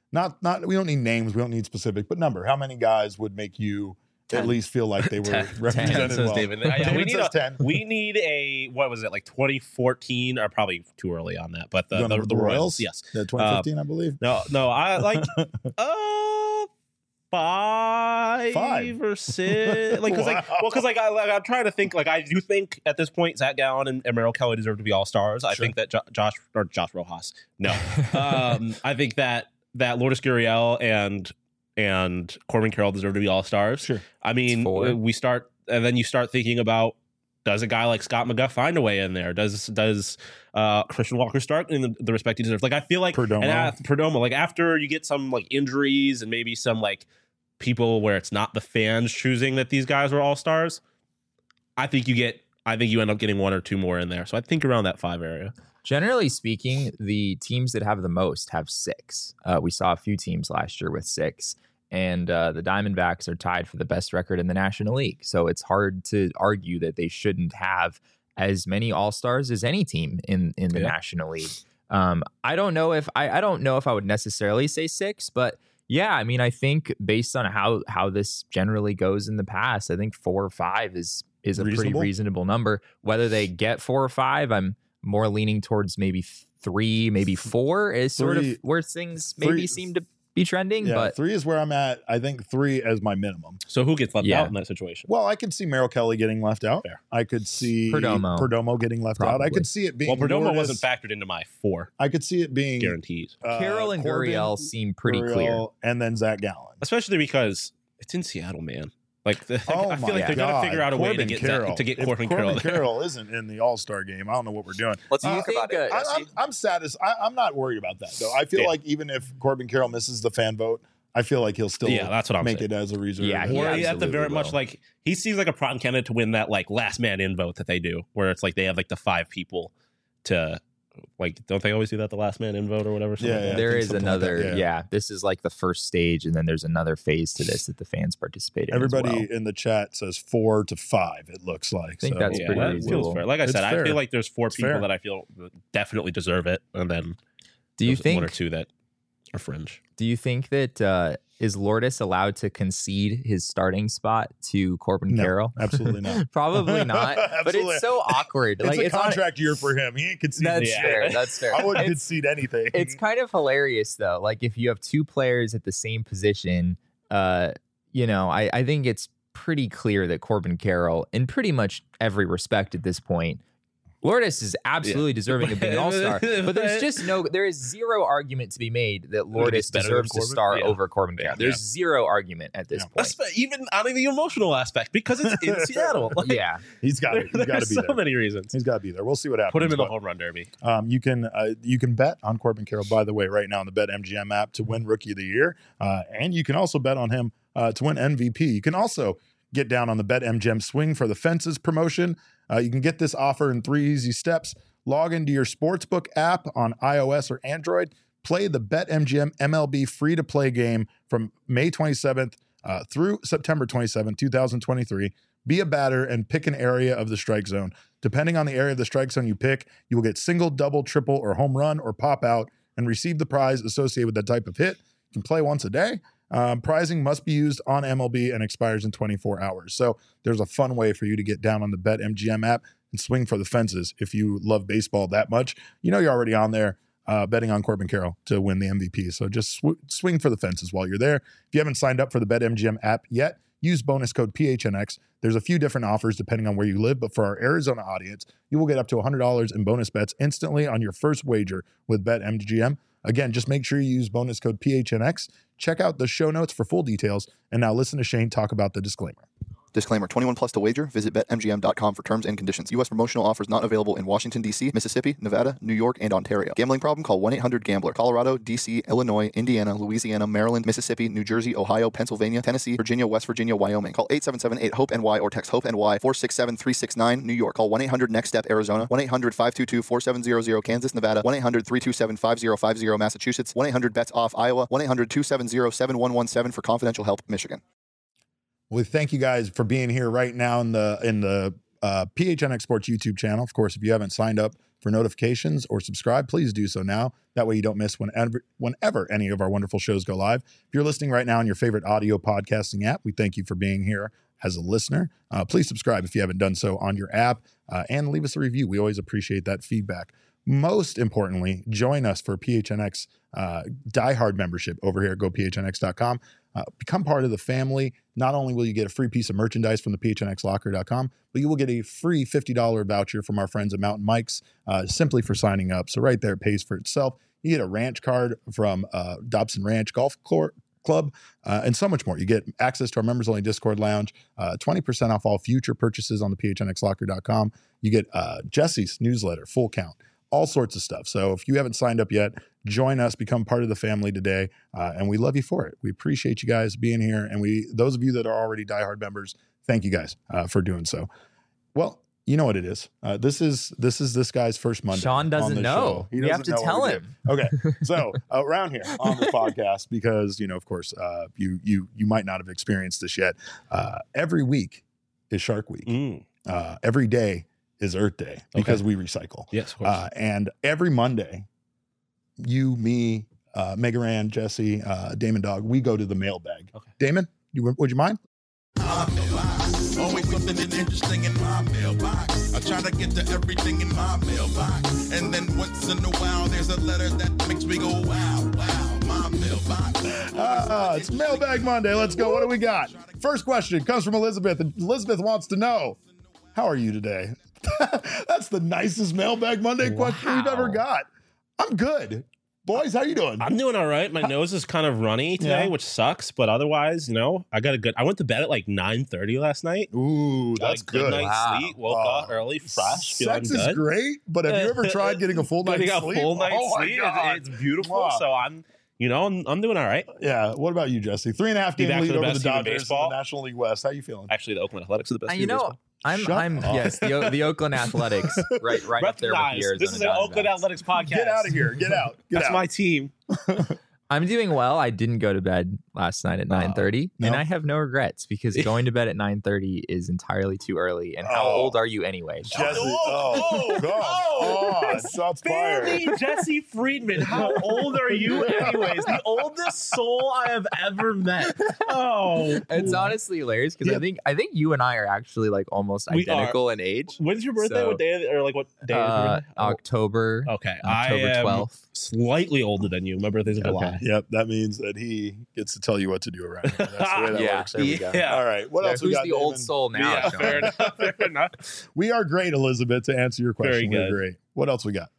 not not we don't need names, we don't need specific, but number. How many guys would make you ten. At least feel like they were ten. represented ten, well? David. Yeah, David we, need says a, ten. we need a, what was it, like twenty fourteen, or probably too early on that, but the, You the, know, the, Royals? Yes. The twenty fifteen, uh, I believe. No, no, I like uh five, Five. or six. Like, cause Wow. like, well, cause like, I, like I'm trying to think. Like, I do think at this point, Zach Gallen and, and Merrill Kelly deserve to be all stars. I Sure. think that jo- Josh or Josh Rojas. No, um, I think that that Lourdes Gurriel and and Corbin Carroll deserve to be all stars. Sure. I mean, four. we start, and then you start thinking about, does a guy like Scott McGuff find a way in there? Does does uh, Christian Walker Stark in the, the respect he deserves? Like, I feel like Perdomo. and at, Perdomo, like after you get some like injuries and maybe some like people where it's not the fans choosing that these guys are all stars, I think you get, I think you end up getting one or two more in there. So I think around that five area. Generally speaking, the teams that have the most have six. Uh, we saw a few teams last year with six, and uh, the Diamondbacks are tied for the best record in the National League. So it's hard to argue that they shouldn't have as many All-Stars as any team in in the Yeah. National League. Um, I don't know if I, I don't know if I would necessarily say six, but yeah, I mean, I think based on how how this generally goes in the past, I think four or five is is a Reasonable? pretty reasonable number. Whether they get four or five, I'm more leaning towards maybe three, maybe four is sort Three- of where things maybe three- seem to be trending. Yeah, but three is where I'm at. I think three as my minimum. So who gets left Yeah. out in that situation? Well, I could see Merrill Kelly getting left out. Fair. I could see Perdomo. Perdomo getting left out. I Probably. could see it being Well, Perdomo Lourdes. wasn't factored into my four I could see it being guarantees, uh, Carroll and Corbin, Gurriel seem pretty Gurriel, clear. and then Zach Gallen. especially because it's in Seattle, man. Like, the, Oh I feel my like they're God. gonna figure out a way to Corbin get Carroll. Zach, to get If Corbin Corbin Carroll. there. Carroll isn't in the All Star game. I don't know what we're doing. Let's Do you talk think, about it. uh, I, Jesse. I'm, I'm satisfied. I, I'm not worried about that though. I feel Yeah. like even if Corbin Carroll misses the fan vote, I feel like he'll still Yeah, that's what I'm make saying. it as a reserve. Yeah, he Or at the absolutely very much will. like he seems like a prime candidate to win that like last man in vote that they do, where it's like they have like the five people to like, don't they always do that, the last man in vote or whatever? Something Yeah, like yeah. that? There think is something like that, another, yeah. yeah. This is like the first stage, and then there's another phase to this that the fans participate in. as Everybody well. in the chat says four to five. It looks like. I think so. that's Yeah, pretty that reasonable. feels fair. Like I It's said, I fair. feel like there's four It's people fair. that I feel definitely deserve it, and then Do you there's think? one or two that are fringe? Do you think that uh, is Lourdes allowed to concede his starting spot to Corbin No, Carroll? absolutely not. Probably not. But Absolutely. it's so awkward. It's like a it's on- contract year for him. He ain't conceding. That's Yeah. fair. That's fair. I wouldn't It's- concede anything. It's kind of hilarious though. Like if you have two players at the same position, uh, you know, I, I think it's pretty clear that Corbin Carroll, in pretty much every respect at this point, Lourdes is absolutely deserving of being an all-star. But there's just no, there is zero argument to be made that Lourdes better than deserves to Corbin? star Yeah. over Corbin Carroll. There's zero argument at this Yeah. point. Espe- even on the emotional aspect, because it's in Seattle. Like, Yeah. he's got there- to. He's got to there's be so there. many reasons. He's got to be there. We'll see what happens. Put him in the but, home run derby. Um, you can uh, you can bet on Corbin Carroll, by the way, right now on the BetMGM app to win Rookie of the Year, uh, and you can also bet on him uh, to win M V P. You can also get down on the BetMGM Swing for the Fences promotion. Uh, you can get this offer in three easy steps. Log into your Sportsbook app on iOS or Android. Play the BetMGM M L B free-to-play game from May twenty-seventh uh, through September twenty-seventh, twenty twenty-three. Be a batter and pick an area of the strike zone. Depending on the area of the strike zone you pick, you will get single, double, triple, or home run or pop out and receive the prize associated with that type of hit. You can play once a day. Um, prizing must be used on M L B and expires in twenty-four hours. So there's a fun way for you to get down on the BetMGM app and swing for the fences. If you love baseball that much, you know you're already on there uh, betting on Corbin Carroll to win the M V P. So just sw- swing for the fences while you're there. If you haven't signed up for the BetMGM app yet, use bonus code P H N X. There's a few different offers depending on where you live, but for our Arizona audience, you will get up to one hundred dollars in bonus bets instantly on your first wager with BetMGM. Again, just make sure you use bonus code P H N X. Check out the show notes for full details. And now listen to Shane talk about the disclaimer. Disclaimer, twenty-one plus to wager. Visit bet M G M dot com for terms and conditions. U S promotional offers not available in Washington, D C, Mississippi, Nevada, New York, and Ontario. Gambling problem? Call one eight hundred gambler. Colorado, D C, Illinois, Indiana, Louisiana, Maryland, Mississippi, New Jersey, Ohio, Pennsylvania, Tennessee, Virginia, West Virginia, Wyoming. Call eight seven seven eight hope N Y or text HOPE-N Y four six seven three six nine. New York. Call one eight hundred next step Arizona. one eight hundred five two two four seven zero zero. Kansas, Nevada. one eight hundred three two seven five zero five zero. Massachusetts. one eight hundred bets off Iowa. one eight hundred two seven zero seven one one seven for confidential help, Michigan. Well, thank you guys for being here right now in the in the uh, P H N X Sports YouTube channel. Of course, if you haven't signed up for For notifications or subscribe, please do so now. That way you don't miss whenever, whenever any of our wonderful shows go live. If you're listening right now on your favorite audio podcasting app, we thank you for being here as a listener. Uh, please subscribe if you haven't done so on your app uh, and leave us a review. We always appreciate that feedback. Most importantly, join us for P H N X uh, diehard membership over here at go P H N X dot com. Uh, become part of the family. Not only will you get a free piece of merchandise from the P H N X locker dot com, but you will get a free fifty dollars voucher from our friends at Mountain Mike's uh, simply for signing up. So right there, it pays for itself. You get a ranch card from uh, Dobson Ranch Golf Club. Club, uh, and so much more. You get access to our members-only Discord lounge, uh, twenty percent off all future purchases on the P H N X locker dot com. You get uh, Jesse's newsletter, Full Count, all sorts of stuff. So if you haven't signed up yet, join us, become part of the family today, uh, and we love you for it. We appreciate you guys being here, and we those of you that are already diehard members, thank you guys uh, for doing so. Well, you know what it is. Uh, this is this is this guy's first Monday. Sean doesn't on the know. show. He You have doesn't to know tell what we him. did. Okay, so uh, around here on the podcast, because you know, of course, uh, you you you might not have experienced this yet. Uh, every week is Shark Week. Mm. Uh, every day is Earth Day because we recycle. Yes, of course. Uh, and every Monday, you, me, uh, Megaran, Jesse, uh, Damon Dog, we go to the mailbag. Okay. Damon, you would you mind? My mailbox. Always something interesting in my mailbox. I try to get to everything in my mailbox. And then once in a while, there's a letter that makes me go, wow, wow, my mailbox. Ah, it's Mailbag Monday. Let's go. What do we got? First question comes from Elizabeth. And Elizabeth wants to know, how are you today? That's the nicest Mailbag Monday question we've Wow. ever got. I'm good. Boys, how you doing? I'm doing all right. My nose is kind of runny today, Yeah. which sucks. But otherwise, you know, I got a good. I went to bed at like nine thirty last night. Ooh, Got that's a good good. night's Wow. sleep. Woke Oh. up early, fresh, feeling Sex is good. great, but have you ever tried getting a full night's Getting a sleep? full night's Oh my sleep. God. It's, it's beautiful. Wow. So I'm, you know, I'm, I'm doing all right. Yeah. What about you, Jesse? Three and a half Be game back lead to the over the best team in Dodgers in baseball. the National League West. How you feeling? Actually, the Oakland Athletics are the best Uh, team you in know, baseball. I'm Shut I'm up. yes, the O- the Oakland Athletics, right right up there with the Recognize, Arizona this is an Oakland Diamondbacks. Athletics podcast. Get out of here. Get out. Get That's out. my team. I'm doing well. I didn't go to bed last night at nine thirty, no? and I have no regrets because going to bed at nine thirty is entirely too early. And how Oh. old are you anyway? Jesse. Oh, Oh, oh, come oh. on. Shots fired. Barely Jesse Friedman. How old are you, anyways? The oldest soul I have ever met. Oh, It's honestly hilarious because Yeah. I think I think you and I are actually like almost We are. identical in age. when's your birthday? So, what day? Or like what day? is your Uh, birthday? Oh, October okay, October I am twelfth. slightly older than you. My birthday's in July. Okay. Yep, that means that he gets to tell you what to do around here. That's the way that Yeah. works. There we go. Yeah. All right. What Yeah, else we who's got? the old Damon? soul now? Yeah, Sean? fair enough. Fair enough. We are great, Elizabeth, to answer your question. Very We're good. great. What else we got?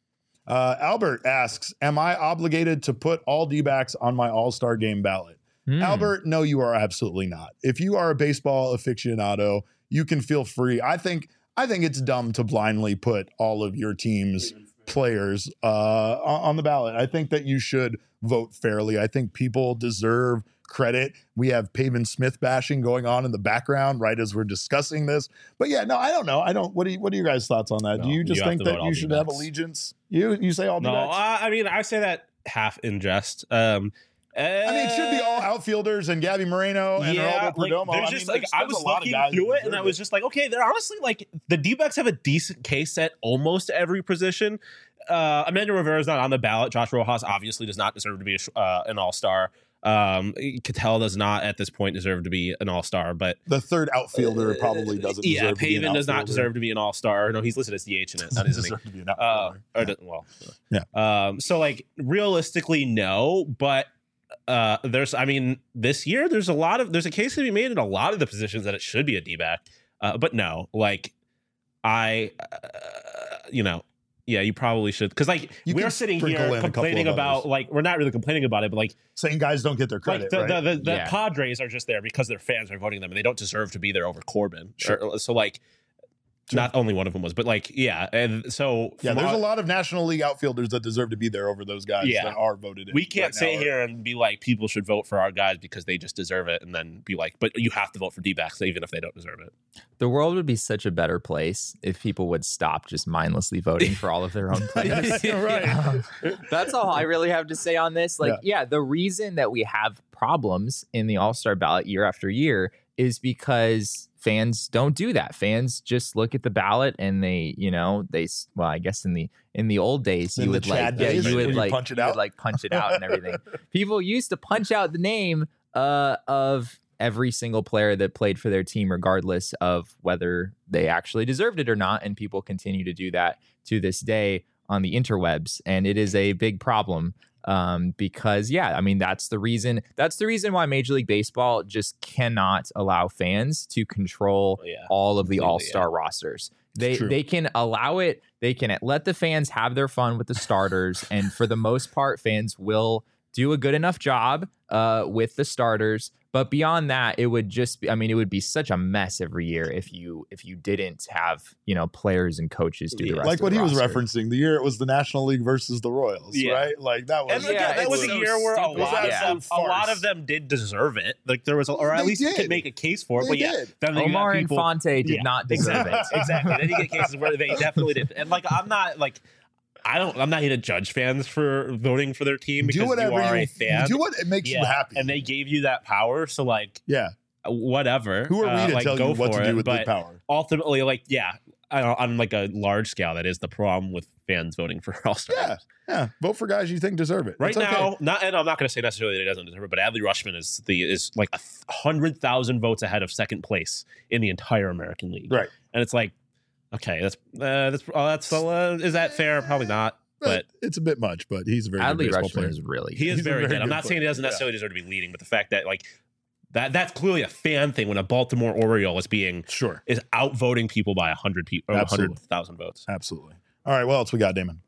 Uh, Albert asks, am I obligated to put all D-backs on my all-star game ballot? Hmm. Albert, no, you are absolutely not. If you are a baseball aficionado, you can feel free. I think I think it's dumb to blindly put all of your team's players uh, on on the ballot. I think that you should vote fairly. I think people deserve credit. We have Pavin Smith bashing going on in the background right as we're discussing this. But yeah, no, I don't know. I don't. What do you, what are your guys' thoughts on that? No, do you just you have think to that vote all you should have D-backs. allegiance? You you say all No, D-backs? uh, I mean I say that half in jest. Um, I mean, it should be all outfielders and Gabby Moreno and yeah, Geraldo like, Perdomo. there's I just mean, like there's- I there's was a lot of looking guys through that it, and I deserve was just like, okay, they're honestly like the D-backs have a decent case at almost every position. Uh, Amanda Rivera is not on the ballot. Josh Rojas obviously does not deserve to be a, sh- uh, an all-star. Um, Cattell does not at this point deserve to be an all-star, but The third outfielder probably doesn't yeah, deserve to be an Pavin does not outfielder. deserve to be an all-star. No, he's listed as D H in it, not Doesn't isn't he? deserve to be an Uh, outfielder. or Yeah. doesn't- well, Yeah. Um, so like realistically, no, but uh, there's, I mean, this year there's a lot of there's a case to be made in a lot of the positions that it should be a D-back, uh, but no, like I, uh, you know. Yeah, you probably should because like You we're can sitting sprinkle in here a couple complaining of about others. like we're not really complaining about it, but like Saying guys don't get their credit, like the, right? the, the, the Yeah. Padres are just there because their fans are voting them and they don't deserve to be there over Corbin. Sure. Or- so like, Sure. not only one of them was, but like yeah, and so yeah, from there's our- a lot of National League outfielders that deserve to be there over those guys Yeah. that are voted in. we can't right sit now. here and be like people should vote for our guys because they just deserve it, and then be like, but you have to vote for D-backs even if they don't deserve it. The world would be such a better place if people would stop just mindlessly voting for all of their own players. Yeah, right. Um, that's all I really have to say on this. Like, yeah. the reason that we have problems in the All-Star ballot year after year is because fans don't do that. Fans just look at the ballot and they, you know, they, well, I guess in the, in the old days, In you the would like, Chad yeah, days, you when would you like, punch it you would out? like punch it out and everything. People used to punch out the name uh, of every single player that played for their team, regardless of whether they actually deserved it or not. And people continue to do that to this day on the interwebs. And it is a big problem. Um, because yeah, I mean, that's the reason, that's the reason why Major League Baseball just cannot allow fans to control Yeah, all of the completely, all-star yeah. rosters. They, true. they can allow it. They can let the fans have their fun with the starters. And for the most part, fans will do a good enough job uh, with the starters. But beyond that, it would just be, I mean, it would be such a mess every year if you if you didn't have, you know, players and coaches do the rest Like of what the he was roster. referencing, the year it was the National League versus the Royals, Yeah. right? Like that was And Yeah, again, that it's was so a year where a stupid. lot, Yeah. of them, a lot of them did deserve it. Like there was, a, or at They least you did. could make a case for it. They but yeah, did. then you got Omar people, Infante did Yeah, not deserve exactly, it. exactly. Then you get cases where they definitely did. And like, I'm not like, I don't, I'm not here to judge fans for voting for their team because do whatever you are you, a fan. do what it makes yeah, you happy. and they gave you that power. So like, yeah. whatever. Who are we uh, to like, tell go you what for to it. do with but the power? ultimately, like, yeah, I don't, on like a large scale, that is the problem with fans voting for All Stars. Yeah. Yeah. Vote for guys you think deserve it. Right It's okay. now, not and I'm not going to say necessarily that he doesn't deserve it, but Adley Rushman is the is like a hundred thousand votes ahead of second place in the entire American League. Right. And it's like, okay, that's uh, that's uh, that's uh, is that fair? Probably not. But it's a bit much, but he's a very good Adley baseball Rushman player. is really he is He's a very, very good. I'm good not saying he player. doesn't Yeah. necessarily deserve to be leading, but the fact that like that that's clearly a fan thing when a Baltimore Oriole is being Sure. is outvoting people by a hundred people or a Absolutely. hundred thousand votes. Absolutely. All right. What else we got, Damon?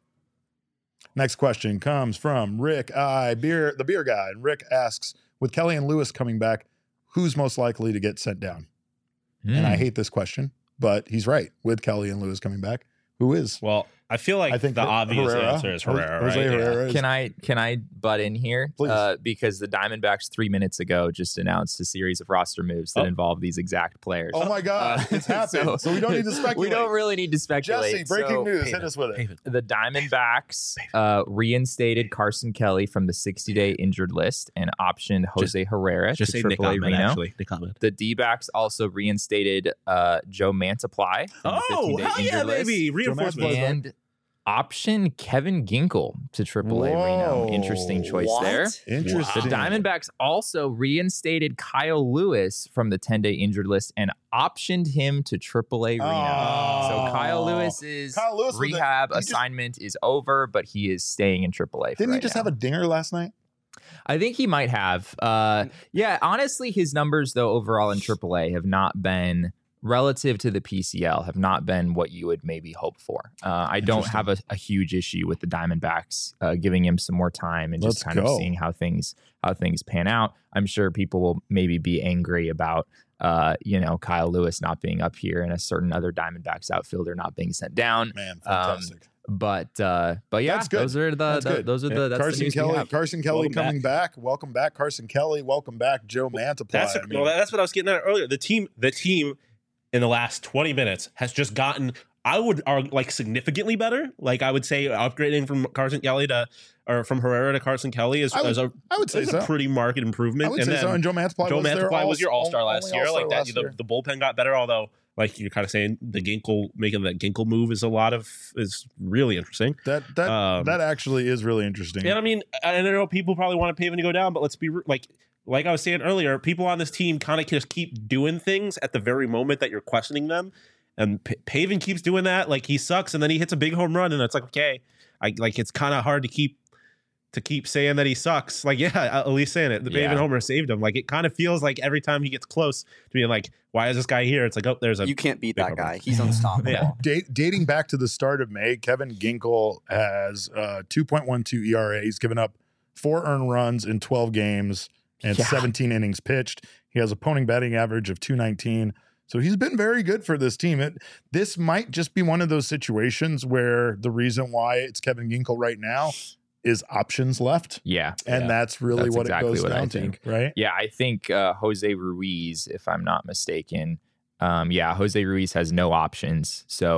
Next question comes from Rick I beer the beer guy. And Rick asks, with Kelly and Lewis coming back, who's most likely to get sent down? And I Hmm. hate this question, but he's right. With Kelly and Lewis coming back, who is? Well, I feel like I think the Her- obvious Herrera. answer is Herrera. Jose right? Yeah. Herrera is- Can I can I butt in here? Please. Uh, because the Diamondbacks three minutes ago just announced a series of roster moves that Oh. involve these exact players. Oh my God, Uh, it's happened. So, we don't need to speculate. We don't really need to speculate. Jesse, breaking So, news. Pave Hit it. us with it. Pave it. The Diamondbacks uh, reinstated Carson Kelly from the sixty-day injured list and optioned Jose Herrera Just to say Nick triple A Ahmed, Reno. actually. Nick Ahmed. The D-backs also reinstated uh, Joe Mantiply from the Oh, fifteen-day hell injured yeah, list. baby. Mantiply's Reinforcement. back. And option Kevin Ginkel to triple A Reno. Whoa. Interesting choice What? there. Interesting. The Diamondbacks also reinstated Kyle Lewis from the ten-day injured list and optioned him to triple A Reno. Oh. So Kyle Lewis's Kyle Lewis with the- rehab he just- assignment is over, but he is staying in triple A. For Didn't he right just now. have a dinger last night? I think he might have. Uh, yeah, honestly, his numbers though overall in triple A have not been relative to the P C L have not been what you would maybe hope for. Uh, I don't have a, a huge issue with the Diamondbacks uh, giving him some more time and just Let's kind of go. seeing how things how things pan out. I'm sure people will maybe be angry about uh, you know Kyle Lewis not being up here and a certain other Diamondbacks outfielder not being sent down. Man, Um, fantastic. But uh, but yeah, That's good. those are the, That's the good. those are the Yeah. that's the Carson news we Kelly, have. Carson Kelly Welcome coming back. Welcome back, Carson Kelly. Welcome back, Joe Mantiply. That's I mean, well, that's what I was getting at earlier. The team, the team, in the last twenty minutes has just gotten, I would are like significantly better. Like I would say, upgrading from Carson Kelly to or from Herrera to Carson Kelly is, I would- is a I would say is so. a pretty marked improvement. I would and say then so. And Joe Mantiply Joe was their Mantiply all- was your All Star last only year. All-Star Like that, last the, year. the bullpen got better. Although, like you're kind of saying, the Ginkel making that Ginkel move is a lot of is really interesting. That that Um, that actually is really interesting. And I mean, I I know people probably want to Pavin to go down, but let's be re- like, like I was saying earlier, people on this team kind of just keep doing things at the very moment that you're questioning them. And P- Pavin keeps doing that. Like he sucks, and then he hits a big home run, and it's like, okay, I like it's kind of hard to keep to keep saying that he sucks. Like, yeah, at least saying it. The Yeah. Pavin homer saved him. Like it kind of feels like every time he gets close to being like, why is this guy here? It's like, oh, there's a You can't beat big that home guy. run. He's unstoppable. Yeah. Date, dating back to the start of May, Kevin Ginkel has uh, two point one two E R A. He's given up four earned runs in twelve games and Yeah. seventeen innings pitched. He has a opponent batting average of two nineteen. So he's been very good for this team. It, this might just be one of those situations where the reason why it's Kevin Ginkel right now is options left. Yeah. And yeah. that's really That's what exactly it goes what I down to, think. right? Yeah, I think uh, Jose Ruiz, if I'm not mistaken, um, yeah, Jose Ruiz has no options. So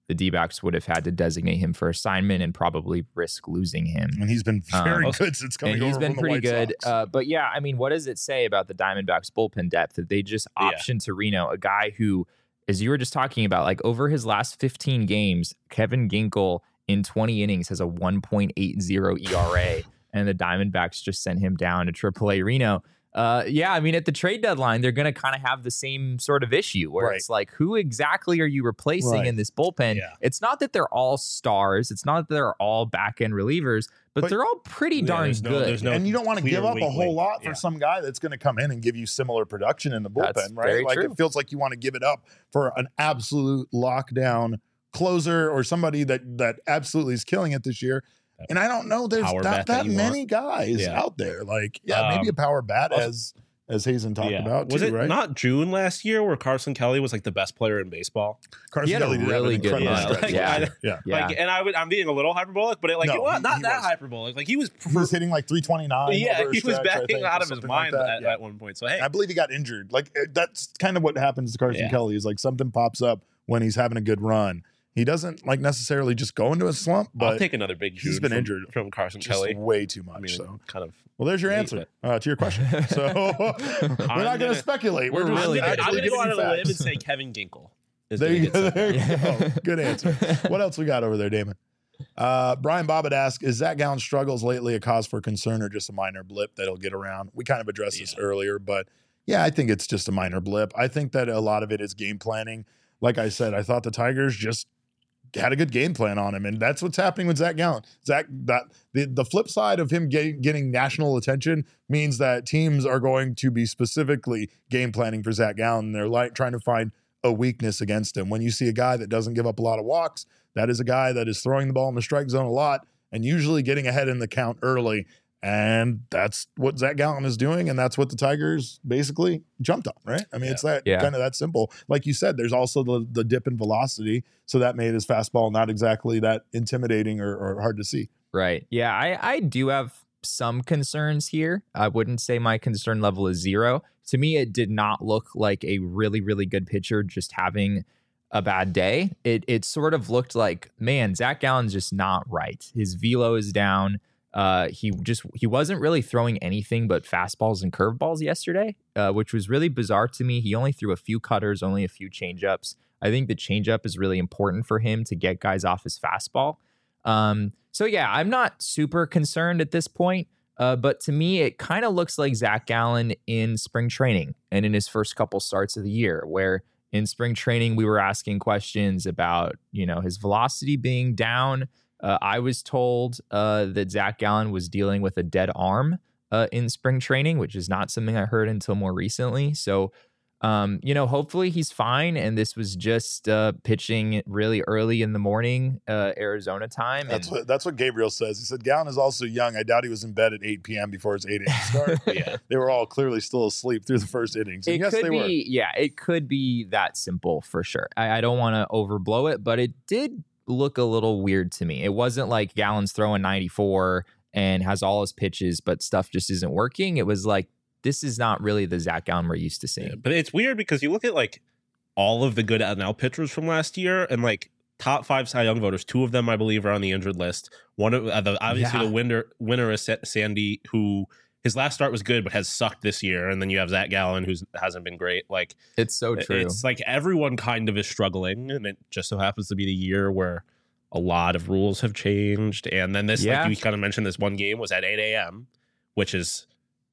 the D-backs would have had to designate him for assignment and probably risk losing him. And he's been very Um, good since coming And he's over been from the pretty White good. Sox. Uh, but yeah, I mean, what does it say about the Diamondbacks bullpen depth that they just Yeah. optioned Torino, a guy who, as you were just talking about, like over his last fifteen games, Kevin Ginkel in twenty innings has a one point eight oh E R A, and the Diamondbacks just sent him down to triple A Reno. Uh, yeah, I mean, at the trade deadline, they're going to kind of have the same sort of issue where Right. it's like, who exactly are you replacing Right. in this bullpen? Yeah. It's not that they're all stars. It's not that they're all back end relievers, but, But- they're all pretty Yeah, darn there's no- good. there's no and you don't want to clear give up a weak whole link. lot for Yeah. some guy that's going to come in and give you similar production in the bullpen, That's right? very Like true. it feels like you want to give it up for an absolute lockdown closer or somebody that that absolutely is killing it this year. And I don't know there's Power not bat that that you many guys Yeah. out there. Like, yeah, maybe Um, a power bat also- as as Hazen talked Yeah. about was too, it right? not June last year where Carson Kelly was like the best player in baseball? Carson He had a Kelly did have an really good incredible run. stretch Yeah. last Like, year. yeah. Yeah. Like, and I would, I'm being a little hyperbolic, but it, like No, it was he- not he that was. hyperbolic. Like he was, He was hitting like three twenty-nine. yeah, over a he was stretch, I backing think, out or of his something like mind that. at, Yeah. at one point. So hey, I believe he got injured. Like uh, that's kind of what happens to Carson Yeah. Kelly is like something pops up when he's having a good run. He doesn't like necessarily just go into a slump, I'll but take another big. he's June been from, injured from Carson just Kelly. way too much. I mean, so, kind of. well, there's your hate answer it. uh, to your question. So we're not going gonna- to speculate. We're, we're just really I'm good gonna, at I'm actually gonna go giving out you on a limb and facts. say Kevin Ginkel. Is There gonna you get go. sent There down. you go. Good answer. What else we got over there, Damon? Uh, Brian Bobbitt asks, is Zach Gallen's struggles lately a cause for concern or just a minor blip that'll get around? We kind of addressed this Yeah. earlier, but yeah, I think it's just a minor blip. I think that a lot of it is game planning. Like I said, I thought the Tigers just had a good game plan on him, and that's what's happening with Zach Gallen. Zach, that the, the flip side of him getting, getting national attention means that teams are going to be specifically game planning for Zach Gallen. They're like trying to find a weakness against him. When you see a guy that doesn't give up a lot of walks, that is a guy that is throwing the ball in the strike zone a lot and usually getting ahead in the count early. And that's what Zach Gallen is doing, and that's what the Tigers basically jumped on, right? I mean, it's that Yeah. kind of that simple. Like you said, there's also the the dip in velocity, so that made his fastball not exactly that intimidating or, or hard to see. Right. Yeah, I, I do have some concerns here. I wouldn't say my concern level is zero. To me, it did not look like a really, really good pitcher just having a bad day. It it sort of looked like, man, Zach Gallen's just not right. His velo is down. Uh, he just he wasn't really throwing anything but fastballs and curveballs yesterday, uh, which was really bizarre to me. He only threw a few cutters, only a few changeups. I think the changeup is really important for him to get guys off his fastball. Um, so yeah, I'm not super concerned at this point. Uh, but to me, it kind of looks like Zach Gallen in spring training and in his first couple starts of the year, where in spring training we were asking questions about, you know, his velocity being down. Uh, I was told uh, that Zach Gallen was dealing with a dead arm uh, in spring training, which is not something I heard until more recently. So, um, you know, hopefully he's fine. And this was just uh, pitching really early in the morning, uh, Arizona time. That's and, what that's what Gabriel says. He said Gallen is also young. I doubt he was in bed at eight p.m. before his eight a.m. start. Yeah. They were all clearly still asleep through the first innings. And It yes, could they be, were. yeah, it could be that simple for sure. I, I don't want to overblow it, but it did look a little weird to me. It wasn't like Gallen's throwing ninety-four and has all his pitches, but stuff just isn't working. It was like, this is not really the Zach Gallen we're used to seeing. Yeah, but it's weird because you look at like all of the good N L pitchers from last year and like top five Cy Young voters, two of them I believe are on the injured list. One of uh, the obviously Yeah. the winner winner is Sa- Sandy, who his last start was good but has sucked this year, and then you have Zach Gallen who hasn't been great. Like It's so true. it's like everyone kind of is struggling, and it just so happens to be the year where a lot of rules have changed. And then this, Yeah. like you kind of mentioned, this one game was at eight a.m., which is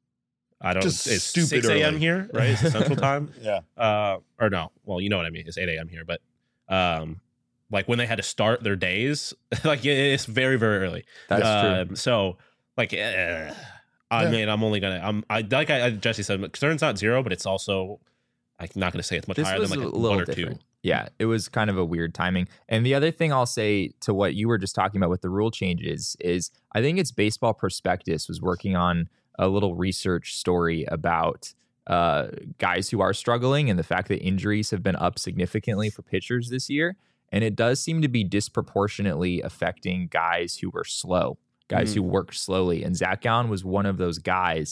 I don't Just it's stupid six a.m. early. here, right? It's Central Time. Yeah. Uh, or no, well, you know what I mean. It's eight a.m. here, but um, like when they had to start their days, like it's very, very early. That's true. um, So, like, eh, I Yeah. mean, I'm only gonna, I'm, I like I, Jesse said, concern's not zero, but it's also, I'm not gonna say it's much This higher was than like a a little one or different. two. Yeah, it was kind of a weird timing. And the other thing I'll say to what you were just talking about with the rule changes is I think it's Baseball Prospectus was working on a little research story about uh, guys who are struggling and the fact that injuries have been up significantly for pitchers this year. And it does seem to be disproportionately affecting guys who were slow, guys Mm. who worked slowly. And Zach Gallen was one of those guys.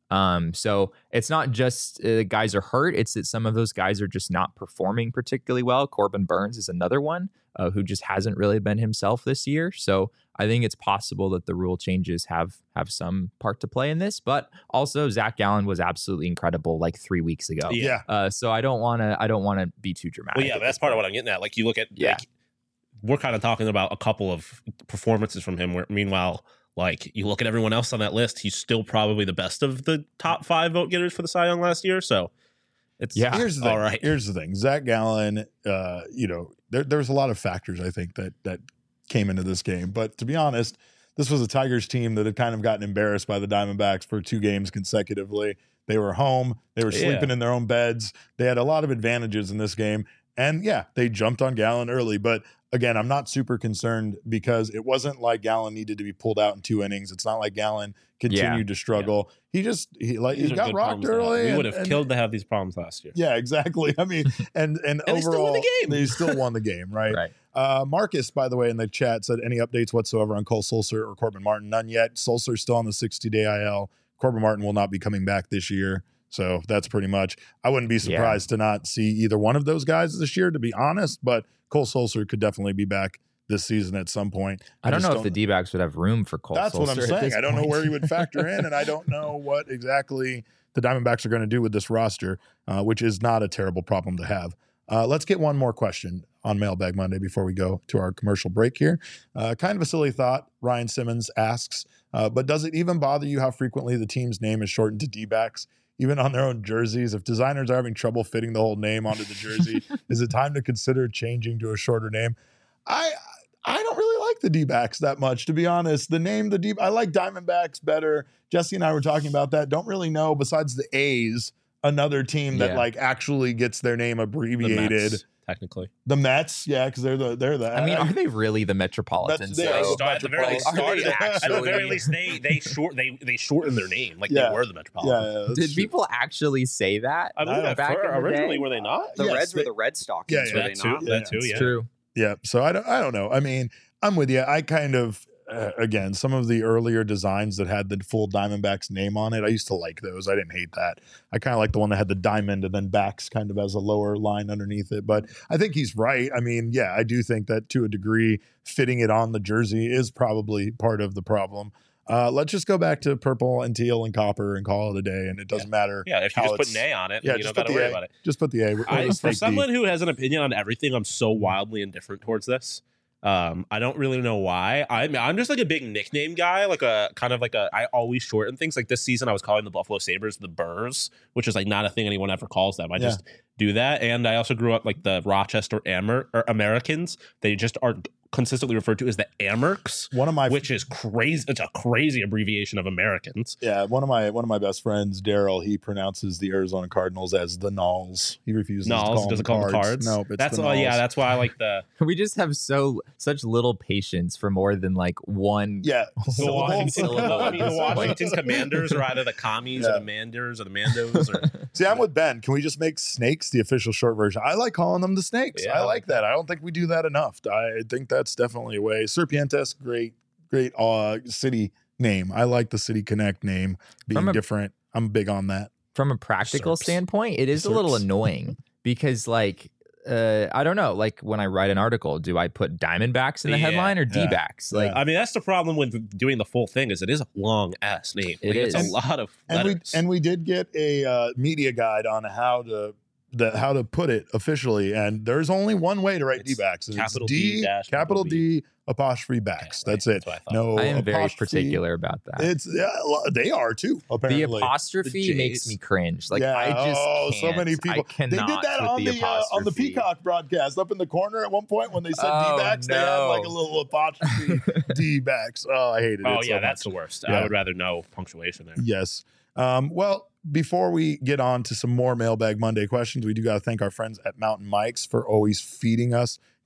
Um, so it's not just uh, guys are hurt. It's that some of those guys are just not performing particularly well. Corbin Burns is another one uh, who just hasn't really been himself this year. So I think it's possible that the rule changes have have some part to play in this. But also Zach Gallen was absolutely incredible like three weeks ago. Yeah. Uh, so I don't want to I don't want to be too dramatic. Well, yeah, that's part of what I'm getting at. Like you look at, Yeah. like, we're kind of talking about a couple of performances from him. Where meanwhile, like you look at everyone else on that list, he's still probably the best of the top five vote getters for the Cy Young last year. So it's Yeah. Here's the thing. all right. Here's the thing. Zach Gallen, uh, you know, there, there's a lot of factors I think that that came into this game. But to be honest, this was a Tigers team that had kind of gotten embarrassed by the Diamondbacks for two games consecutively. They were home. They were Yeah. sleeping in their own beds. They had a lot of advantages in this game. And yeah, they jumped on Gallen early. But again, I'm not super concerned because it wasn't like Gallen needed to be pulled out in two innings. It's not like Gallen continued to struggle. He just he like These he are got good rocked problems to have. early. We and- would have and- killed to have these problems last year. Yeah, exactly. I mean, and and, And they still won overall, the game. they still won the game, right? Right. Uh, Marcus, by the way, in the chat said any updates whatsoever on Cole Sulser or Corbin Martin? None yet. Sulser's still on the sixty-day I L. Corbin Martin will not be coming back this year. So that's pretty much. I wouldn't be surprised to not see either one of those guys this year, to be honest. But Cole Sulser could definitely be back this season at some point. I don't just know if the D-backs would have room for Cole. That's what I'm Sulser at saying. this I don't know point. where he would factor in, and I don't know what exactly the Diamondbacks are going to do with this roster, uh, which is not a terrible problem to have. Uh, let's get one more question on Mailbag Monday before we go to our commercial break here. Uh, kind of a silly thought, Ryan Simmons asks, uh, but does it even bother you how frequently the team's name is shortened to D-backs? Even on their own jerseys, if designers are having trouble fitting the whole name onto the jersey, is it time to consider changing to a shorter name? I I don't really like the D-backs that much, to be honest. The name, the D, I like Diamondbacks better. Jesse and I were talking about that. Don't really know, besides the A's, another team that Yeah. like actually gets their name The abbreviated. Mets, technically. The Mets, yeah, because they're the they're the. I mean, are they really the Metropolitans? They They are though? the start, at the very least, Are they started at, at the very actually- least they they short they they shortened their name like Yeah. they were the yeah, Metropolitans. yeah, that's Did true. people actually say that? I believe Uh, at back fir- in the originally day? were they not? The Yes, Reds they- were the Red Stockings, Yeah, were yeah. they That too. not? Yeah, That too. It's Yeah. true. Yeah, so I don't I don't know. I mean, I'm with you. I kind of uh, again, some of the earlier designs that had the full Diamondbacks name on it, I used to like those. I didn't hate that. I kind of like the one that had the diamond and then backs kind of as a lower line underneath it. But I think he's right. I mean, yeah, I do think that to a degree, fitting it on the jersey is probably part of the problem. Uh, let's just go back to purple and teal and copper and call it a day, and it doesn't matter. Yeah, if you how just put it's- an A on it, Yeah, you just don't got put to the worry A. about it. Just put the A. or I, just for fake D. someone who has an opinion on everything, I'm so wildly indifferent towards this. Um, I don't really know why. I'm I'm just like a big nickname guy, like a kind of like a. I always shorten things. Like this season, I was calling the Buffalo Sabres the Burrs, which is like not a thing anyone ever calls them. I Yeah. just do that. And I also grew up like the Rochester Amer or Americans. They just are consistently referred to as the Amerks, One of my which is crazy. It's a crazy abbreviation of Americans. yeah, one of my one of my best friends, Daryl, he pronounces the Arizona Cardinals as the Nulls. He refuses to call Nulls them doesn't the call them cards. No, it's that's the all. Yeah, Nulls. that's why I like the We just have so such little patience for more than like one. yeah. The Syllable. Washington, Syllable. I mean, the Washington Commanders are either the commies Yeah. or the Manders or the Mandos. Or, See, I'm with Ben. Can we just make snakes the official short version? I like calling them the snakes. Yeah, I like that. I don't think we do that enough. I think that's definitely a way. Serpientes, great, great uh, city name. I like the City Connect name being From a- different. I'm big on that. From a practical Serps. standpoint, it is a little Serps. annoying because like uh, I don't know, like when I write an article, do I put Diamondbacks in the Yeah. headline or Yeah. D-backs? Like I mean, that's the problem with doing the full thing is it is a long ass name. It Like, It's is. a lot of And we letters. and we did get a uh, media guide on how to the how to put it officially, and there's only one way to write It's D-backs. and it's capital D dash capital capital D apostrophe backs. Okay, That's right. it. That's what I thought. No, I am very apostrophe. particular about that. It's yeah, lo- they are too. The Apparently, apostrophe The makes J's. me cringe. Like yeah. I just oh, so can't. many I people. They did cannot that with on the, the, uh, on the apostrophe. Peacock broadcast up in the corner at one point when they said Oh, D-backs. They had like a no. little apostrophe D-backs. Oh, I hated it. Oh so yeah, much. that's the worst. Yeah. I would rather no punctuation there. Yes. Um, well, before we get on to some more Mailbag Monday questions, we do got to thank our friends at Mountain Mike's for always feeding us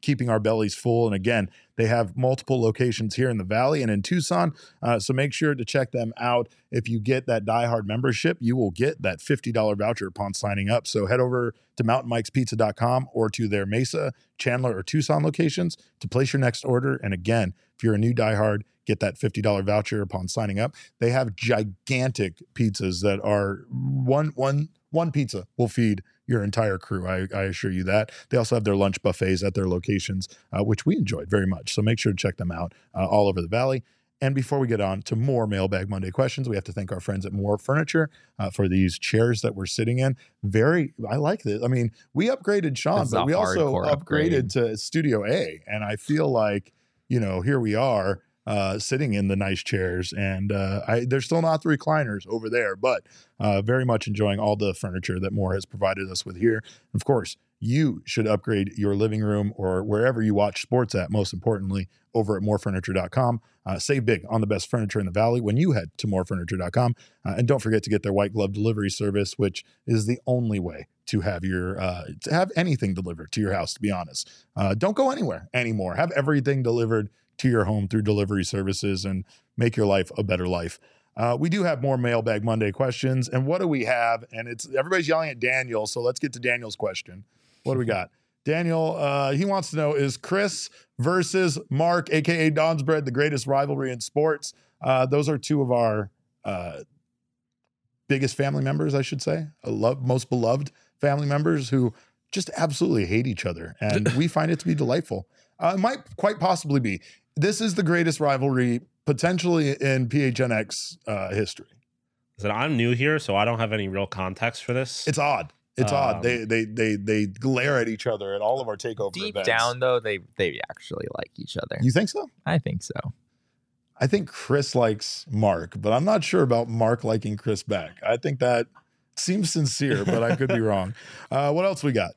keeping our bellies full. And again, they have multiple locations here in the Valley and in Tucson. Uh, so make sure to check them out. If you get that Die Hard membership, you will get that fifty dollars voucher upon signing up. So head over to mountain mikes pizza dot com or to their Mesa, Chandler, or Tucson locations to place your next order. And again, if you're a new Die Hard, get that fifty dollars voucher upon signing up. They have gigantic pizzas that are one, one, one pizza will feed your entire crew. I, I assure you that. They also have their lunch buffets at their locations, uh, which we enjoyed very much. So make sure to check them out uh, all over the Valley. And before we get on to more Mailbag Monday questions, we have to thank our friends at More Furniture uh, for these chairs that we're sitting in. Very, I like this. I mean, we upgraded Sean, It's but a we also hardcore upgraded upgrade. to Studio A. And I feel like, you know, here we are uh, sitting in the nice chairs. And uh, I, they're still not the recliners over there, but uh, very much enjoying all the furniture that More has provided us with here. Of course, you should upgrade your living room or wherever you watch sports at, most importantly, over at more furniture dot com. Uh, save big on the best furniture in the Valley when you head to more furniture dot com. Uh, and don't forget to get their white glove delivery service, which is the only way to have your uh, to have anything delivered to your house, to be honest. Uh, don't go anywhere anymore. Have everything delivered to your home through delivery services and make your life a better life. Uh, we do have more Mailbag Monday questions. And what do we have? And it's everybody's yelling at Daniel. So let's get to Daniel's question. What do we got? Daniel, uh, he wants to know, is Chris versus Mark, a k a. Don's Bread, the greatest rivalry in sports? Uh, those are two of our uh, biggest family members, I should say, a love, most beloved family members who just absolutely hate each other. And we find it to be delightful. Uh, it might quite possibly be. This is the greatest rivalry potentially in P H N X uh, history. So I'm new here, so I don't have any real context for this. It's odd. It's Um, odd. They they they they glare at each other at all of our takeover Deep events. down, though, they they actually like each other. You think so? I think so. I think Chris likes Mark, but I'm not sure about Mark liking Chris back. I think that seems sincere, but I could be wrong. Uh, what else we got?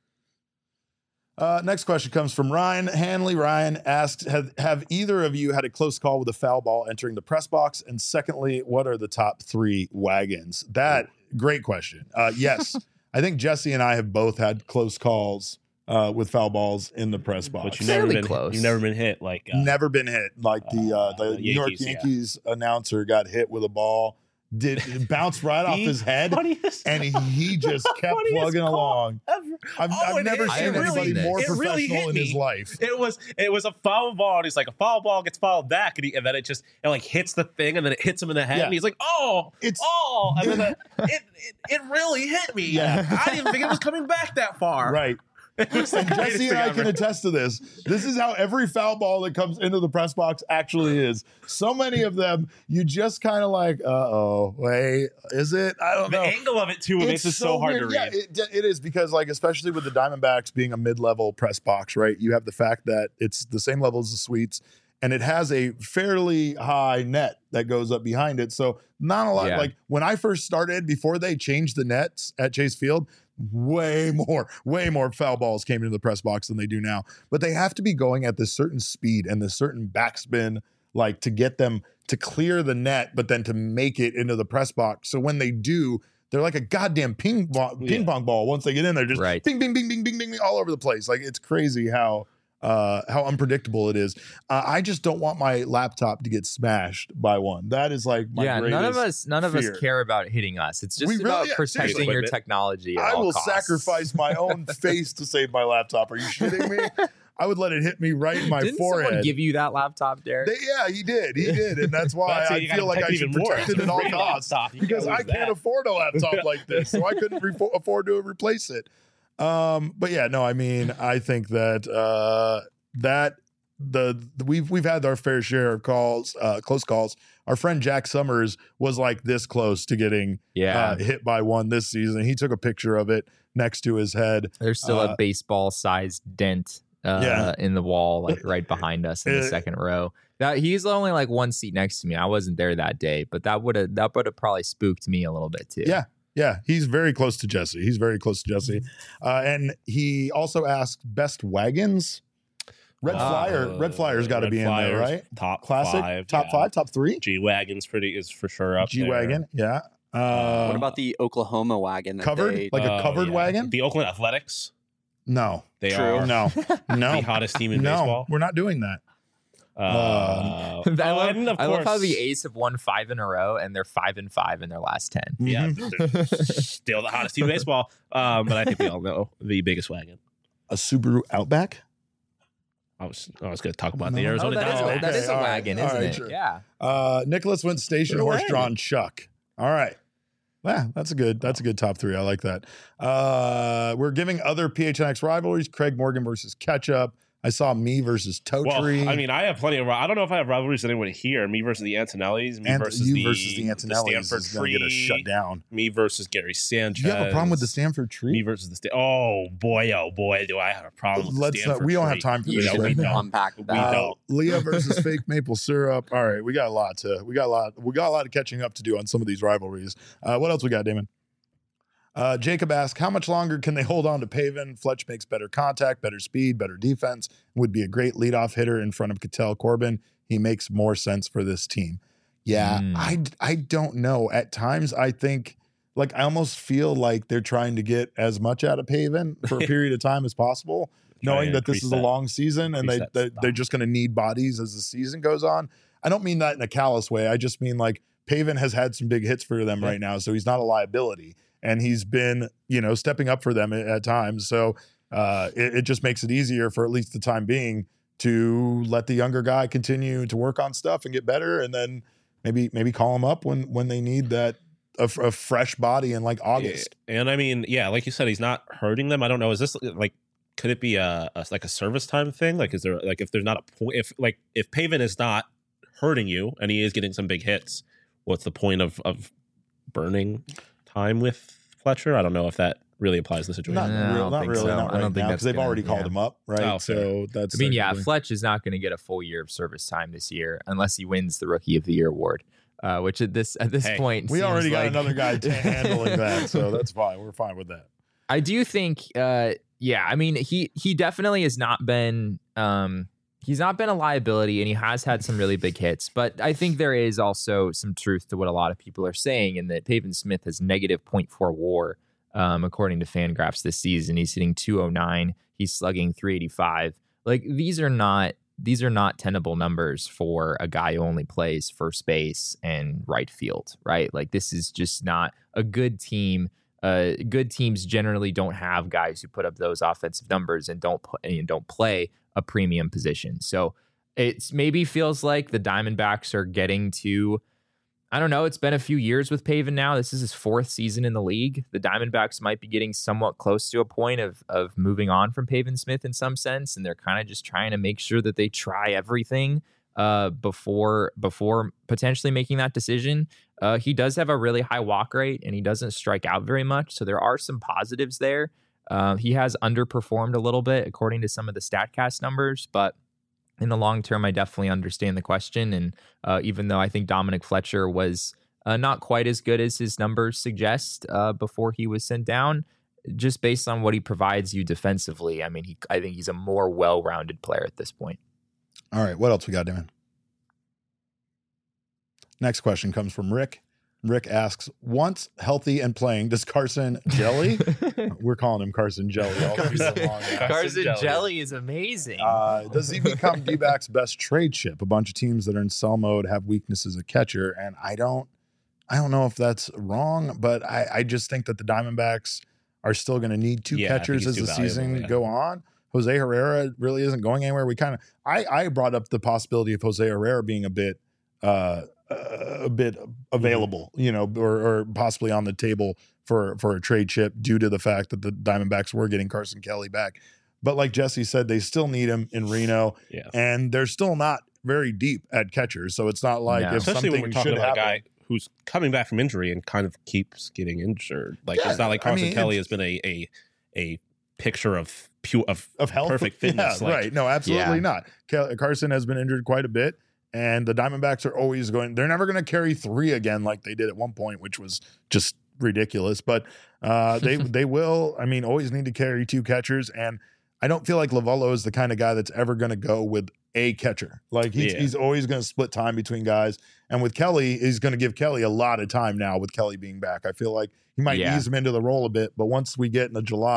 Uh, next question comes from Ryan Hanley. Ryan asks, have, have either of you had a close call with a foul ball entering the press box? And secondly, what are the top three wagons? That, great question. Uh, yes, I think Jesse and I have both had close calls uh, with foul balls in the press box. But you've never Fairly been close. You've never been hit like uh, Never been hit. Like the uh, the Uh, New York Yankees, yeah. Yankees announcer got hit with a ball, did it bounced right off the his head, funniest- and he just kept funniest plugging call along. ever. I've, Oh, I've it never is. seen It really anybody did. more It really professional hit in his me. life. It was it was a foul ball, and he's like, a foul ball gets fouled back, and, he, and then it just it like hits the thing, and then it hits him in the head, Yeah. and he's like, oh, It's- oh, and then it, it, it it really hit me. Yeah. I didn't think it was coming back that far. Right. It was the And greatest Jesse and thing I can ever. attest to this. This is how every foul ball that comes into the press box actually is. So many of them, you just kind of like, uh oh, wait, is it? I don't The know. angle of it too it makes it so, hard weird. to read. Yeah, it, it is because, like, especially with the Diamondbacks being a mid-level press box, right? You have the fact that it's the same level as the suites, and it has a fairly high net that goes up behind it. So not a lot. Yeah. Like when I first started, before they changed the nets at Chase Field, way more, way more foul balls came into the press box than they do now. But they have to be going at this certain speed and this certain backspin, like to get them to clear the net, but then to make it into the press box. So when they do, they're like a goddamn ping ball, ping Yeah. pong ball. Once they get in there, just Right. bing, bing, bing, bing, bing, bing, bing, all over the place. Like it's crazy how uh, how unpredictable it is. Uh, I just don't want my laptop to get smashed by one. That is like my yeah, none of greatest us none of fear. us care about hitting us. It's just We really- about yeah, protecting seriously. your technology. At I all will costs. sacrifice my own face to save my laptop. Are you shitting me? I would let it hit me right in my Didn't forehead. someone give you that laptop, Derek? They- yeah, he did. He did. And that's why That's it, I you gotta feel like I protect should even more. protect it at all Great costs. laptop. You Because can't I lose can't that. afford a laptop like this. So I couldn't re- afford to replace it. Um, but yeah, no, I mean, I think that uh, that the, the we've we've had our fair share of calls, uh, close calls. Our friend Jack Summers was like this close to getting yeah, uh, hit by one this season. He took a picture of it next to his head. there's still uh, a baseball-sized dent uh, Yeah. in the wall, like right behind us in the Uh, second row. That he's only like one seat next to me. I wasn't there that day, but that would have that would have probably spooked me a little bit too. Yeah. Yeah, he's very close to Jesse. He's very close to Jesse. Uh, and he also asked best wagons. Red Uh, Flyer, Red Flyer's got to Red be in there, Flyers, right? Top Classic, five, top yeah. five, top three. G Wagon's pretty is for sure up G there. wagon, yeah. Uh, What about the Oklahoma wagon? That covered? They, Like a Oh, covered yeah. wagon? The Oakland Athletics. No, They True. are no, no, the hottest team in no. baseball. We're not doing that. Uh, I, oh, love, and of I love how course- the A's have won five in a row, and they're five and five in their last ten. Yeah, Mhm. they're still the hottest team in baseball. Um, but I think we all know the biggest wagon. A Subaru Outback. I was I was going to talk about No. the Oh, Arizona that is, Diamondbacks. a, Diamondbacks. that is a all right, wagon, all isn't right, it? sure. Yeah. Uh, Nicholas went station They're a horse wagon. drawn Chuck. All right. Yeah, that's a good. That's a good top three. I like that. Uh, we're giving other P H N X rivalries: Craig Morgan versus Ketchup. I saw me versus Totri. Well, I mean, I have plenty of. I don't know if I have rivalries with anyone here. Me versus the Antonellis. Me and versus you the, versus the Antonellis Stanford is going to get us Tree, shut down. Me versus Gary Sanchez. Do you have a problem with the Stanford Tree? Me versus the Sta- Oh boy, oh boy, do I have a problem with Let's. the Uh, Stanford we don't Tree. have time for You this know, right should now. unpack We that. Uh, don't. Leah versus fake maple syrup. All right, we got a lot to. We got a lot. We got a lot of catching up to do on some of these rivalries. Uh, what else we got, Damon? Uh, Jacob asks, how much longer can they hold on to Pavin? Fletch makes better contact, better speed, better defense. Would be a great leadoff hitter in front of Cattell Corbin. He makes more sense for this team. Yeah, Mm. I I don't know. At times, I think like I almost feel like they're trying to get as much out of Pavin for a period of time as possible, Try knowing and that this increase is a that- long season and they, increase that they they're stock. just going to need bodies as the season goes on. I don't mean that in a callous way. I just mean like Pavin has had some big hits for them Yeah. right now, so he's not a liability, and he's been you know stepping up for them at, at times. So uh, it, it just makes it easier for at least the time being to let the younger guy continue to work on stuff and get better, and then maybe maybe call him up when when they need that a, f- a fresh body in like August. Yeah, and I mean, yeah, like you said, he's not hurting them. I don't know. Is this like? Could it be a, a like a service time thing? Like, is there like if there's not a point? If like if Pavin is not hurting you and he is getting some big hits, what's the point of of burning time with Fletcher? I don't know if that really applies to the situation. Not, No, I real, don't not think really, so. not I right don't think now that's because they've gonna- already called yeah. him up, right? Oh, fair. so that's. I mean, yeah, technically- Fletch is not going to get a full year of service time this year unless he wins the Rookie of the Year award, uh, which at this at this Hey, point we seems already got like- another guy t- handling that, so that's fine. We're fine with that. I do think, uh, yeah, I mean, he he definitely has not been, um, he's not been a liability, and he has had some really big hits. But I think there is also some truth to what a lot of people are saying, in that Pavin Smith has negative point four WAR, um, according to Fangraphs this season. He's hitting two oh nine. He's slugging three eighty-five. Like these are not these are not tenable numbers for a guy who only plays first base and right field, right? Like this is just not a good team. Uh, good teams generally don't have guys who put up those offensive numbers and don't put, and don't play a premium position. So it's maybe feels like the Diamondbacks are getting to, I don't know, it's been a few years with Pavin now. This is his fourth season in the league. The Diamondbacks might be getting somewhat close to a point of of moving on from Pavin Smith in some sense, and they're kind of just trying to make sure that they try everything uh, before before potentially making that decision. Uh, he does have a really high walk rate, and he doesn't strike out very much, so there are some positives there. Uh, he has underperformed a little bit according to some of the StatCast numbers, but in the long term, I definitely understand the question. And uh, even though I think Dominic Fletcher was uh, not quite as good as his numbers suggest uh, before he was sent down, just based on what he provides you defensively, I mean, he, I think he's a more well-rounded player at this point. All right, what else we got, Damon? Next question comes from Rick. Rick asks, once healthy and playing, does Carson Jelly? We're calling him Carson Jelly. all season long now. Carson Jelly. Jelly is amazing. Uh, does he become D-backs best trade chip? A bunch of teams that are in sell mode have weaknesses at catcher, and I don't, I don't know if that's wrong, but I, I just think that the Diamondbacks are still going to need two Yeah, I think catchers he's as too the valuable, season yeah. go on. Jose Herrera really isn't going anywhere. We kind of, I, I brought up the possibility of Jose Herrera being a bit, uh, uh, a bit available, you know, or, or possibly on the table for for a trade chip due to the fact that the Diamondbacks were getting Carson Kelly back. But like Jesse said, they still need him in Reno, Yeah, and they're still not very deep at catchers. So it's not like No. if especially when something we're talking should about happen. a guy who's coming back from injury and kind of keeps getting injured. Like Yeah, it's not like I Carson mean, Kelly it's- has been a a a picture of pure of of health, perfect fitness. Yeah, like, right? No, absolutely Yeah. not. Cal- Carson has been injured quite a bit, and the Diamondbacks are always going. They're never going to carry three again like they did at one point, which was just ridiculous. But uh, they they will. I mean, always need to carry two catchers, and I don't feel like Lavallo is the kind of guy that's ever going to go with a catcher. Like he's, Yeah. he's always going to split time between guys, and with Kelly, he's going to give Kelly a lot of time now. With Kelly being back, I feel like he might Yeah. ease him into the role a bit. But once we get into July,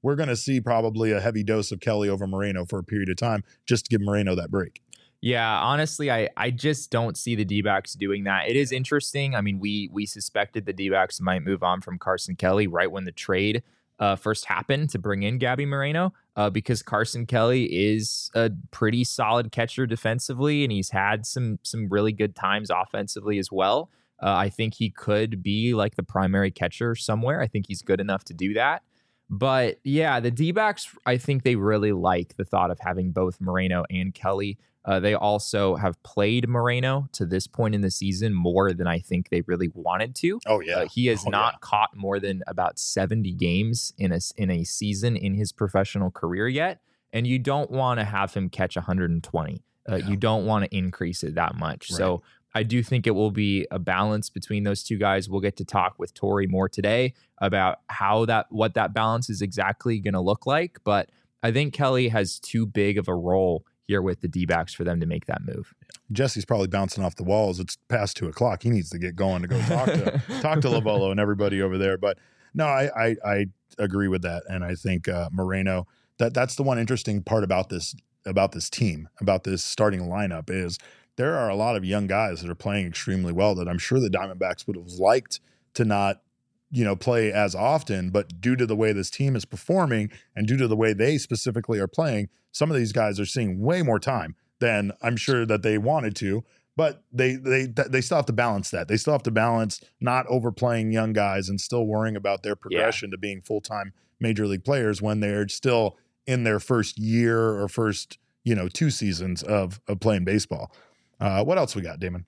we're going to see probably a heavy dose of Kelly over Moreno for a period of time just to give Moreno that break. Yeah, honestly, I, I just don't see the D-backs doing that. It is interesting. I mean, we we suspected the D-backs might move on from Carson Kelly right when the trade uh, first happened to bring in Gabby Moreno uh, because Carson Kelly is a pretty solid catcher defensively, and he's had some some really good times offensively as well. Uh, I think he could be like the primary catcher somewhere. I think he's good enough to do that. But yeah, the D-backs, I think they really like the thought of having both Moreno and Kelly. Uh, they also have played Moreno to this point in the season more than I think they really wanted to. Oh, yeah. Uh, he has Oh, not yeah. caught more than about seventy games in a, in a season in his professional career yet. And you don't want to have him catch one hundred twenty. Uh, Yeah. You don't want to increase it that much. Right. So I do think it will be a balance between those two guys. We'll get to talk with Tori more today about how that, what that balance is exactly going to look like. But I think Kelly has too big of a role here with the D-backs for them to make that move. Jesse's probably bouncing off the walls. It's past two o'clock. He needs to get going to go talk to talk to Lovolo and everybody over there. But no, I I, I agree with that, and I think uh, Moreno. That that's the one interesting part about this about this team, about this starting lineup is there are a lot of young guys that are playing extremely well that I'm sure the Diamondbacks would have liked to not, you know, play as often, but due to the way this team is performing and due to the way they specifically are playing, some of these guys are seeing way more time than I'm sure that they wanted to, but they they they still have to balance that. They still have to balance not overplaying young guys and still worrying about their progression to being full-time major league players when they're still in their first year or first, you know, two seasons of of playing baseball. Uh, what else we got, Damon?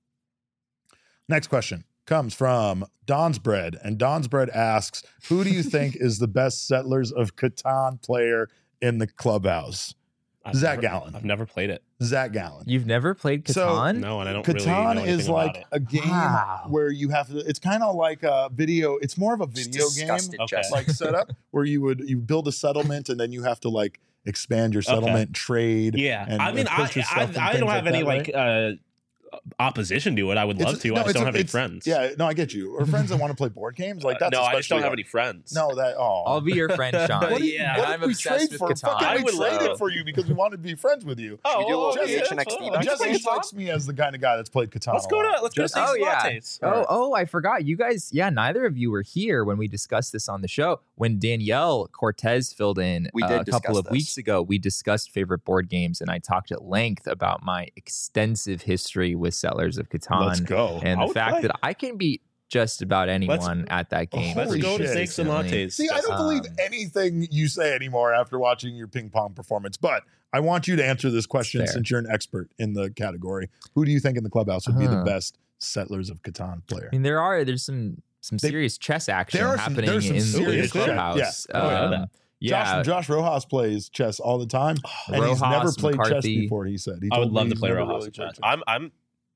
Next question comes from Don's Bread, and Don's Bread asks, who do you think is the best Settlers of Catan player in the clubhouse? I've Zach never- Gallen. I've never played it. Zach Gallen. You've never played So- Catan? No, and I don't really know Catan anything is about like it. a game Wow. where you have to, it's kind of like a video, it's more of a Just video game disgusted, Okay. Jesse. like setup where you would, you build a settlement and then you have to like expand your settlement, trade. Yeah, and- I mean, and I put your stuff I, and I things don't have like any that, like uh, opposition to it. I would It's- love to. no, I just it's don't a- have any it's- friends. Yeah, no, I get you. Or friends that want to play board games, like Uh, that's no, I just don't especially have hard. any friends. No, that oh, I'll be your friend, Sean. What did, Yeah. what And did I'm we obsessed trade with for? Catan. Fucking I we would traded love- for you because we wanted to be friends with you. Oh, Should we do a well, little okay, H N X that's T fine. back Jesse then? strikes me as the kind of guy that's played Catan. Let's a go lot. to let's go to Jesse? Oh, Steve's yeah. lattes. Oh, oh, I forgot. You guys, yeah, neither of you were here when we discussed this on the show. When Danielle Cortez filled in We uh, did a couple discuss of this. weeks ago, we discussed favorite board games, and I talked at length about my extensive history with Settlers of Catan. Let's go. And I the would fact play. that I can beat just about anyone at that game. Let's Let's Holy go to shit. steaks and recently. lattes. See, I don't Um, believe anything you say anymore after watching your ping pong performance, but I want you to answer this question Fair. since you're an expert in the category. Who do you think in the clubhouse would be the Uh-huh. best Settlers of Catan player? I mean, there are there's some some They- serious chess action there are some- happening there's some in serious the chess. clubhouse. Yeah. Oh, yeah. Um, yeah, Josh, Josh Rojas plays chess all the time, and he's Rojas, never played chess McCarthy. before. He said he I would told me love to he's play never Rojas really and played chess. I'm I'm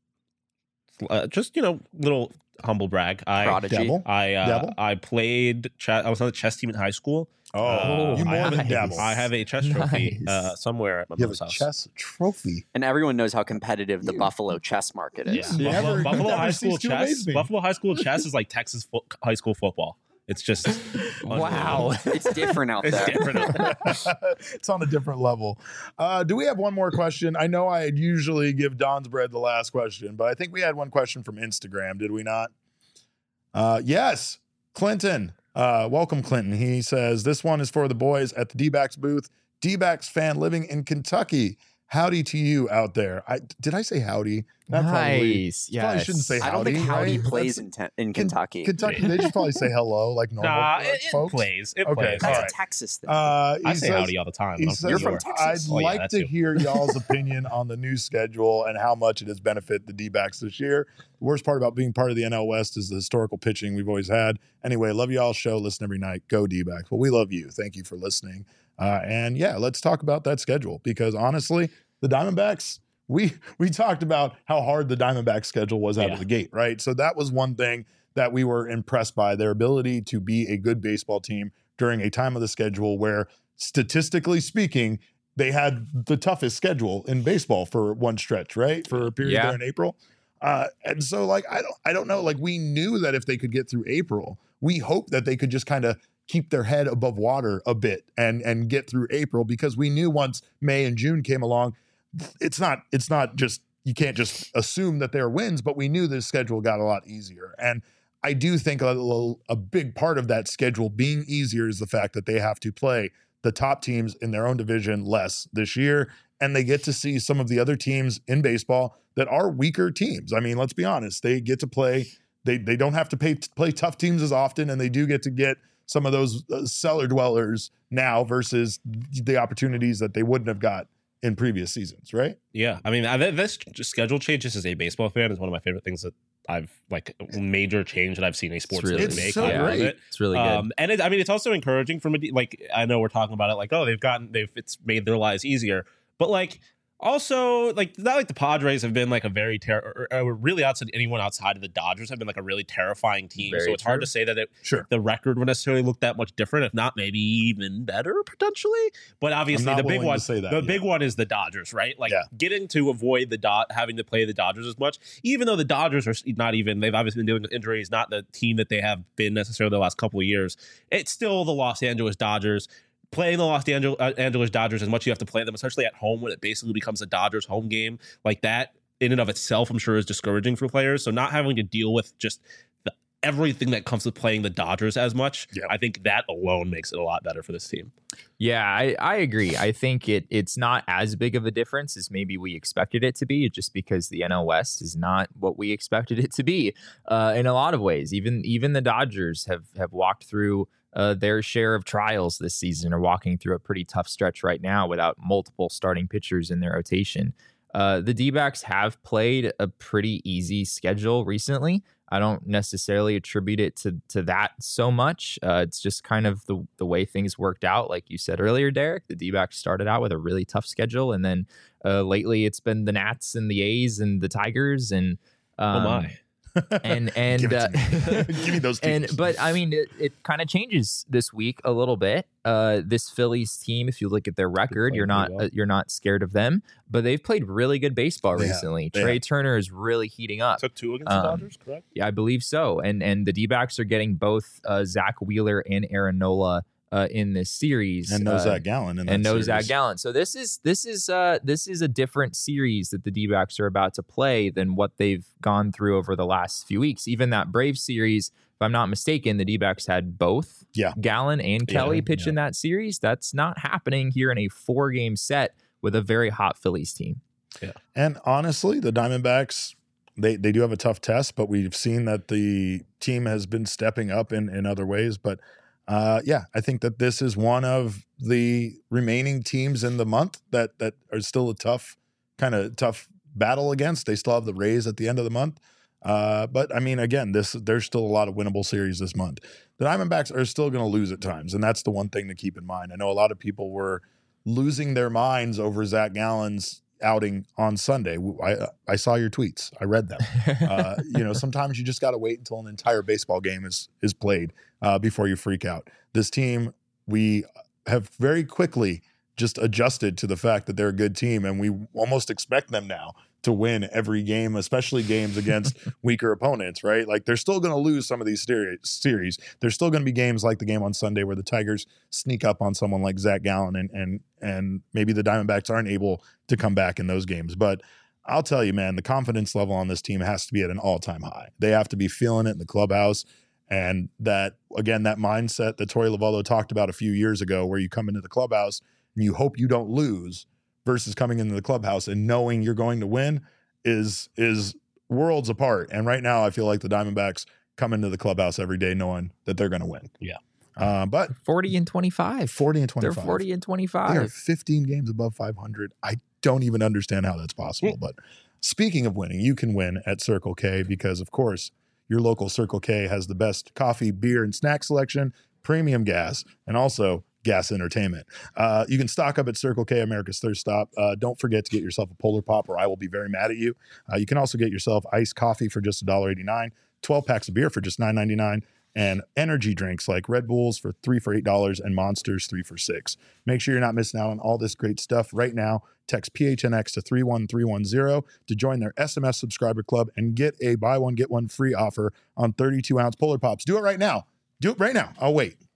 uh, just you know little humble brag. I Prodigy. Devil? I uh, Dabble? I played chess. I was on the chess team in high school. Oh, Uh, you more I than nice. dabble. I have a chess trophy Nice. uh, somewhere at my You have mom's a house. chess trophy. And everyone knows how competitive the You- Buffalo chess market You is. never- Buffalo, you Buffalo never High cease School to chess. amaze me. Buffalo High School chess is like Texas fo- high school football. It's just Wow. It's different out It's there. different. out there. It's on a different level. Uh, do we have one more question? I know I usually give Don's Bread the last question, but I think we had one question from Instagram, did we not? Uh, yes, Clinton. Uh, welcome, Clinton. He says, this one is for the boys at the D-backs booth. D-backs fan living in Kentucky. Howdy to you out there. I Did I say howdy? That probably, nice. probably Yes. shouldn't say I don't think howdy, Howdy right? plays That's- in, te- in Ken- Kentucky. Kentucky, they just probably say hello like normal Nah, like, it, it folks. plays. It Okay, plays. That's all a right. Texas thing. Uh, he I say says- howdy all the time. He I'm says, You're sure. from Texas. I'd Oh, yeah, like that to too. hear y'all's opinion on the new schedule and how much it has benefited the D-backs this year. The worst part about being part of the N L West is the historical pitching we've always had. Anyway, love y'all's show. Listen every night. Go D-backs. Well, we love you. Thank you for listening. Uh, and yeah, let's talk about that schedule because honestly, the Diamondbacks, we we talked about how hard the Diamondbacks schedule was out Yeah. of the gate, right? So that was one thing that we were impressed by, their ability to be a good baseball team during a time of the schedule where statistically speaking, they had the toughest schedule in baseball for one stretch, right? For a period Yeah. there in April. Uh, and so like, I don't, I don't know, like we knew that if they could get through April, we hoped that they could just kind of keep their head above water a bit and and get through April, because we knew once May and June came along, it's not it's not just, you can't just assume that there are wins, but we knew the schedule got a lot easier. And I do think a, little, a big part of that schedule being easier is the fact that they have to play the top teams in their own division less this year, and they get to see some of the other teams in baseball that are weaker teams. I mean, let's be honest, they get to play, they they don't have to pay, play tough teams as often, and they do get to get some of those uh, cellar dwellers now versus the opportunities that they wouldn't have got in previous seasons, right? Yeah, I mean, I, this schedule change, just as a baseball fan, is one of my favorite things that I've like major change that I've seen a sports really- league It's make. so I love great. it. It's really good. Um, and it, I mean, it's also encouraging from a de- like I know we're talking about it like, oh, they've gotten they've it's made their lives easier, but like also like not like the Padres have been like a very ter- or, or really outside anyone outside of the Dodgers have been like a really terrifying team. Very so it's hard true. to say that it, Sure. the record would necessarily look that much different, if not maybe even better potentially. But obviously I'm not the big willing one, to say that the yet. big one is the Dodgers, right? Like Yeah. getting to avoid the dot having to play the Dodgers as much, even though the Dodgers are not even they've obviously been dealing with injuries, not the team that they have been necessarily the last couple of years. It's still the Los Angeles Dodgers. Playing the Los Angeles, uh, Angeles Dodgers as much as you have to play them, especially at home when it basically becomes a Dodgers home game, like that in and of itself, I'm sure is discouraging for players. So not having to deal with just the, everything that comes with playing the Dodgers as much, Yeah. I think that alone makes it a lot better for this team. Yeah, I, I agree. I think it it's not as big of a difference as maybe we expected it to be, just because the N L West is not what we expected it to be uh, in a lot of ways. Even even the Dodgers have have walked through uh, their share of trials this season, are walking through a pretty tough stretch right now without multiple starting pitchers in their rotation. Uh, the D-backs have played a pretty easy schedule recently. I don't necessarily attribute it to to that so much. Uh, it's just kind of the the way things worked out. Like you said earlier, Derek, the D-backs started out with a really tough schedule, and then uh, lately it's been the Nats and the A's and the Tigers and um, Oh my. and and Give it uh, to me. Give me those and teams. but I mean it, it kind of changes this week a little bit. Uh, this Phillies team, if you look at their record, playing you're not pretty well. uh, you're not scared of them, but they've played really good baseball They have. recently. They Trey have. Turner is really heating up. Took two against Um, the Dodgers, correct? Yeah, I believe so. And and the D-backs are getting both uh, Zach Wheeler and Aaron Nola uh, in this series, and no uh, Zach Gallen in that and no series. Zach Gallen. So this is this is uh this is a different series that the D-backs are about to play than what they've gone through over the last few weeks. Even that Braves series, if I'm not mistaken, the D-backs had both Yeah. Gallen and Yeah, Kelly pitch yeah. in that series. That's not happening here in a four-game set with a very hot Phillies team. And honestly, the Diamondbacks, they, they do have a tough test, but we've seen that the team has been stepping up in, in other ways. But uh, yeah, I think that this is one of the remaining teams in the month that that are still a tough, kind of tough battle against. They still have the Rays at the end of the month. Uh, but I mean, again, this there's still a lot of winnable series this month. The Diamondbacks are still going to lose at times, and that's the one thing to keep in mind. I know a lot of people were losing their minds over Zach Gallen's outing on Sunday. I I saw your tweets. I read them. Uh, you know, sometimes you just got to wait until an entire baseball game is is played uh, before you freak out. This team, we have very quickly just adjusted to the fact that they're a good team, and we almost expect them now to win every game, especially games against weaker opponents, right? Like they're still going to lose some of these seri- series. There's still going to be games like the game on Sunday where the Tigers sneak up on someone like Zach Gallen, and and and maybe the Diamondbacks aren't able to come back in those games. But I'll tell you, man, the confidence level on this team has to be at an all-time high. They have to be feeling it in the clubhouse. And that, again, that mindset that Torey Lovullo talked about a few years ago, where you come into the clubhouse and you hope you don't lose, versus coming into the clubhouse and knowing you're going to win, is is worlds apart. And right now, I feel like the Diamondbacks come into the clubhouse every day knowing that they're going to win. Yeah. Uh, but forty and twenty-five. forty and twenty-five. They're forty and They are twenty-five. fifteen games above five hundred. I don't even understand how that's possible. But speaking of winning, you can win at Circle K because, of course, your local Circle K has the best coffee, beer, and snack selection, premium gas, and also gas entertainment. Uh, you can stock up at Circle K, America's Thirst Stop. Uh, don't forget to get yourself a Polar Pop, or I will be very mad at you. Uh, you can also get yourself iced coffee for just one dollar and eighty-nine cents, twelve packs of beer for just nine ninety-nine, and energy drinks like Red Bulls for three for eight dollars and Monsters three for six. Make sure you're not missing out on all this great stuff right now. Text P H N X to three one three one zero to join their S M S subscriber club and get a buy one, get one free offer on thirty-two ounce Polar Pops. Do it right now. Do it right now. I'll wait.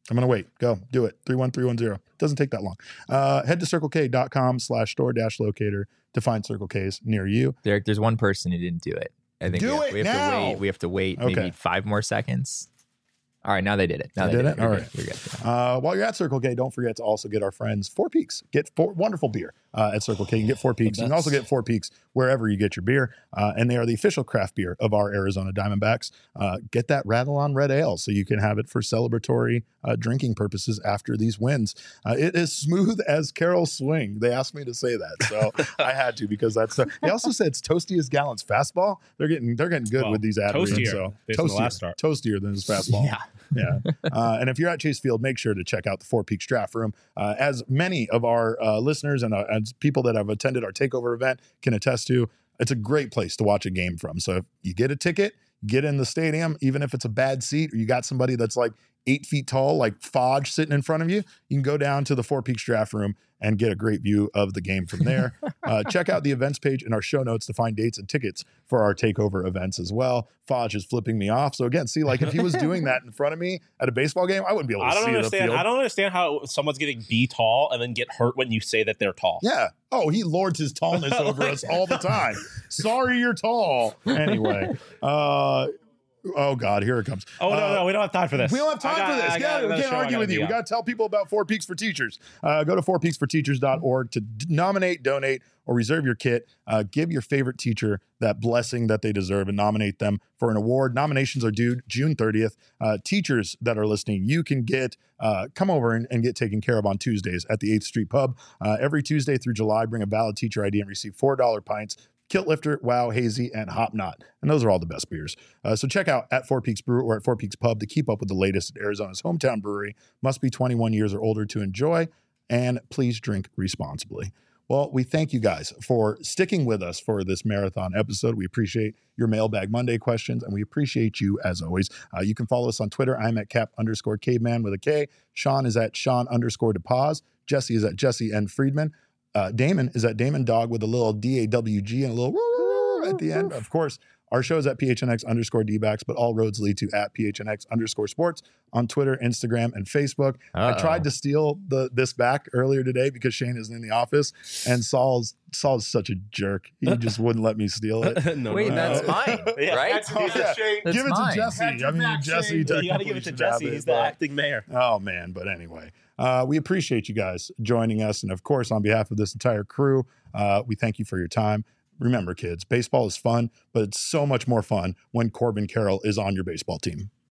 I'm going to wait. Go. Do it. three one three one zero. Doesn't take that long. Uh, head to circlek.com slash store dash locator to find Circle K's near you. Derek, there's one person who didn't do it. I think Do we have, it we have now. to wait. We have to wait Okay. maybe five more seconds. All right, now they did it. Now They they, did it? You're All good. right. You're good. Uh, while you're at Circle K, don't forget to also get our friends Four Peaks. Get four wonderful beer uh, at Circle K. You can get Four Peaks. You can also get Four Peaks wherever you get your beer. Uh, and they are the official craft beer of our Arizona Diamondbacks. Uh, get that Rattle on Red Ale so you can have it for celebratory uh, drinking purposes after these wins. Uh, it is smooth as Carol's swing. They asked me to say that, so I had to because that's. Uh, they also said it's toasty as Gallant's fastball. They're getting they're getting good Well, with these ad reads. toastier, So based on the last start. toastier than his fastball. Yeah. Yeah. Uh, and if you're at Chase Field, make sure to check out the Four Peaks Draft Room. Uh, as many of our uh, listeners and uh, as people that have attended our takeover event can attest to, it's a great place to watch a game from. So if you get a ticket, get in the stadium, even if it's a bad seat or you got somebody that's like eight feet tall, like Fodge sitting in front of you, you can go down to the Four Peaks Draft Room and get a great view of the game from there. uh, check out the events page in our show notes to find dates and tickets for our takeover events as well. Fodge is flipping me off. So again, see, like if he was doing that in front of me at a baseball game, I wouldn't be able to I don't see the understand. field. I don't understand how someo's getting B tall and then get hurt when you say that they're tall. Yeah. Oh, he lords his tallness over us all the time. Sorry, you're tall. Anyway. Uh, oh, God. Here it comes. Oh, no, Uh, no. We don't have time for this. We don't have time I got- for this. I Yeah, got we another can't show I argue gotta with you. be We on. got to tell people about Four Peaks for Teachers. Uh, go to four peaks for teachers dot org to d- nominate, donate, or reserve your kit. Uh, give your favorite teacher that blessing that they deserve and nominate them for an award. Nominations are due June thirtieth. Uh, teachers that are listening, you can get uh, come over and, and get taken care of on Tuesdays at the eighth Street Pub. Uh, every Tuesday through July, bring a valid teacher I D and receive four dollar pints. Kilt Lifter, Wow, Hazy, and Hop Knot. And those are all the best beers. Uh, so check out at Four Peaks Brew or at Four Peaks Pub to keep up with the latest at Arizona's hometown brewery. Must be twenty-one years or older to enjoy. And please drink responsibly. Well, we thank you guys for sticking with us for this marathon episode. We appreciate your Mailbag Monday questions, and we appreciate you as always. Uh, you can follow us on Twitter. I'm at cap underscore caveman with a K. Sean is at Sean underscore DePaz. Jesse is at Jesse N. Friedman. Uh, Damon is at Damon Dog with a little D A W G and a little at the end. Of course, our show is at P H N X underscore D-backs, but all roads lead to at P H N X underscore sports on Twitter, Instagram, and Facebook. Uh-oh. I tried to steal the this back earlier today because Shane isn't in the office, and Saul's Saul's such a jerk. He just wouldn't let me steal it. no, Wait, no, that's no. mine, Yeah. right? Oh, yeah. That's Give it mine. to Jesse. I mean, Jesse. You got to technically give it to should Jesse. have He's it, the but- acting mayor. Oh, man. But anyway, uh, we appreciate you guys joining us. And of course, on behalf of this entire crew, uh, we thank you for your time. Remember, kids, baseball is fun, but it's so much more fun when Corbin Carroll is on your baseball team.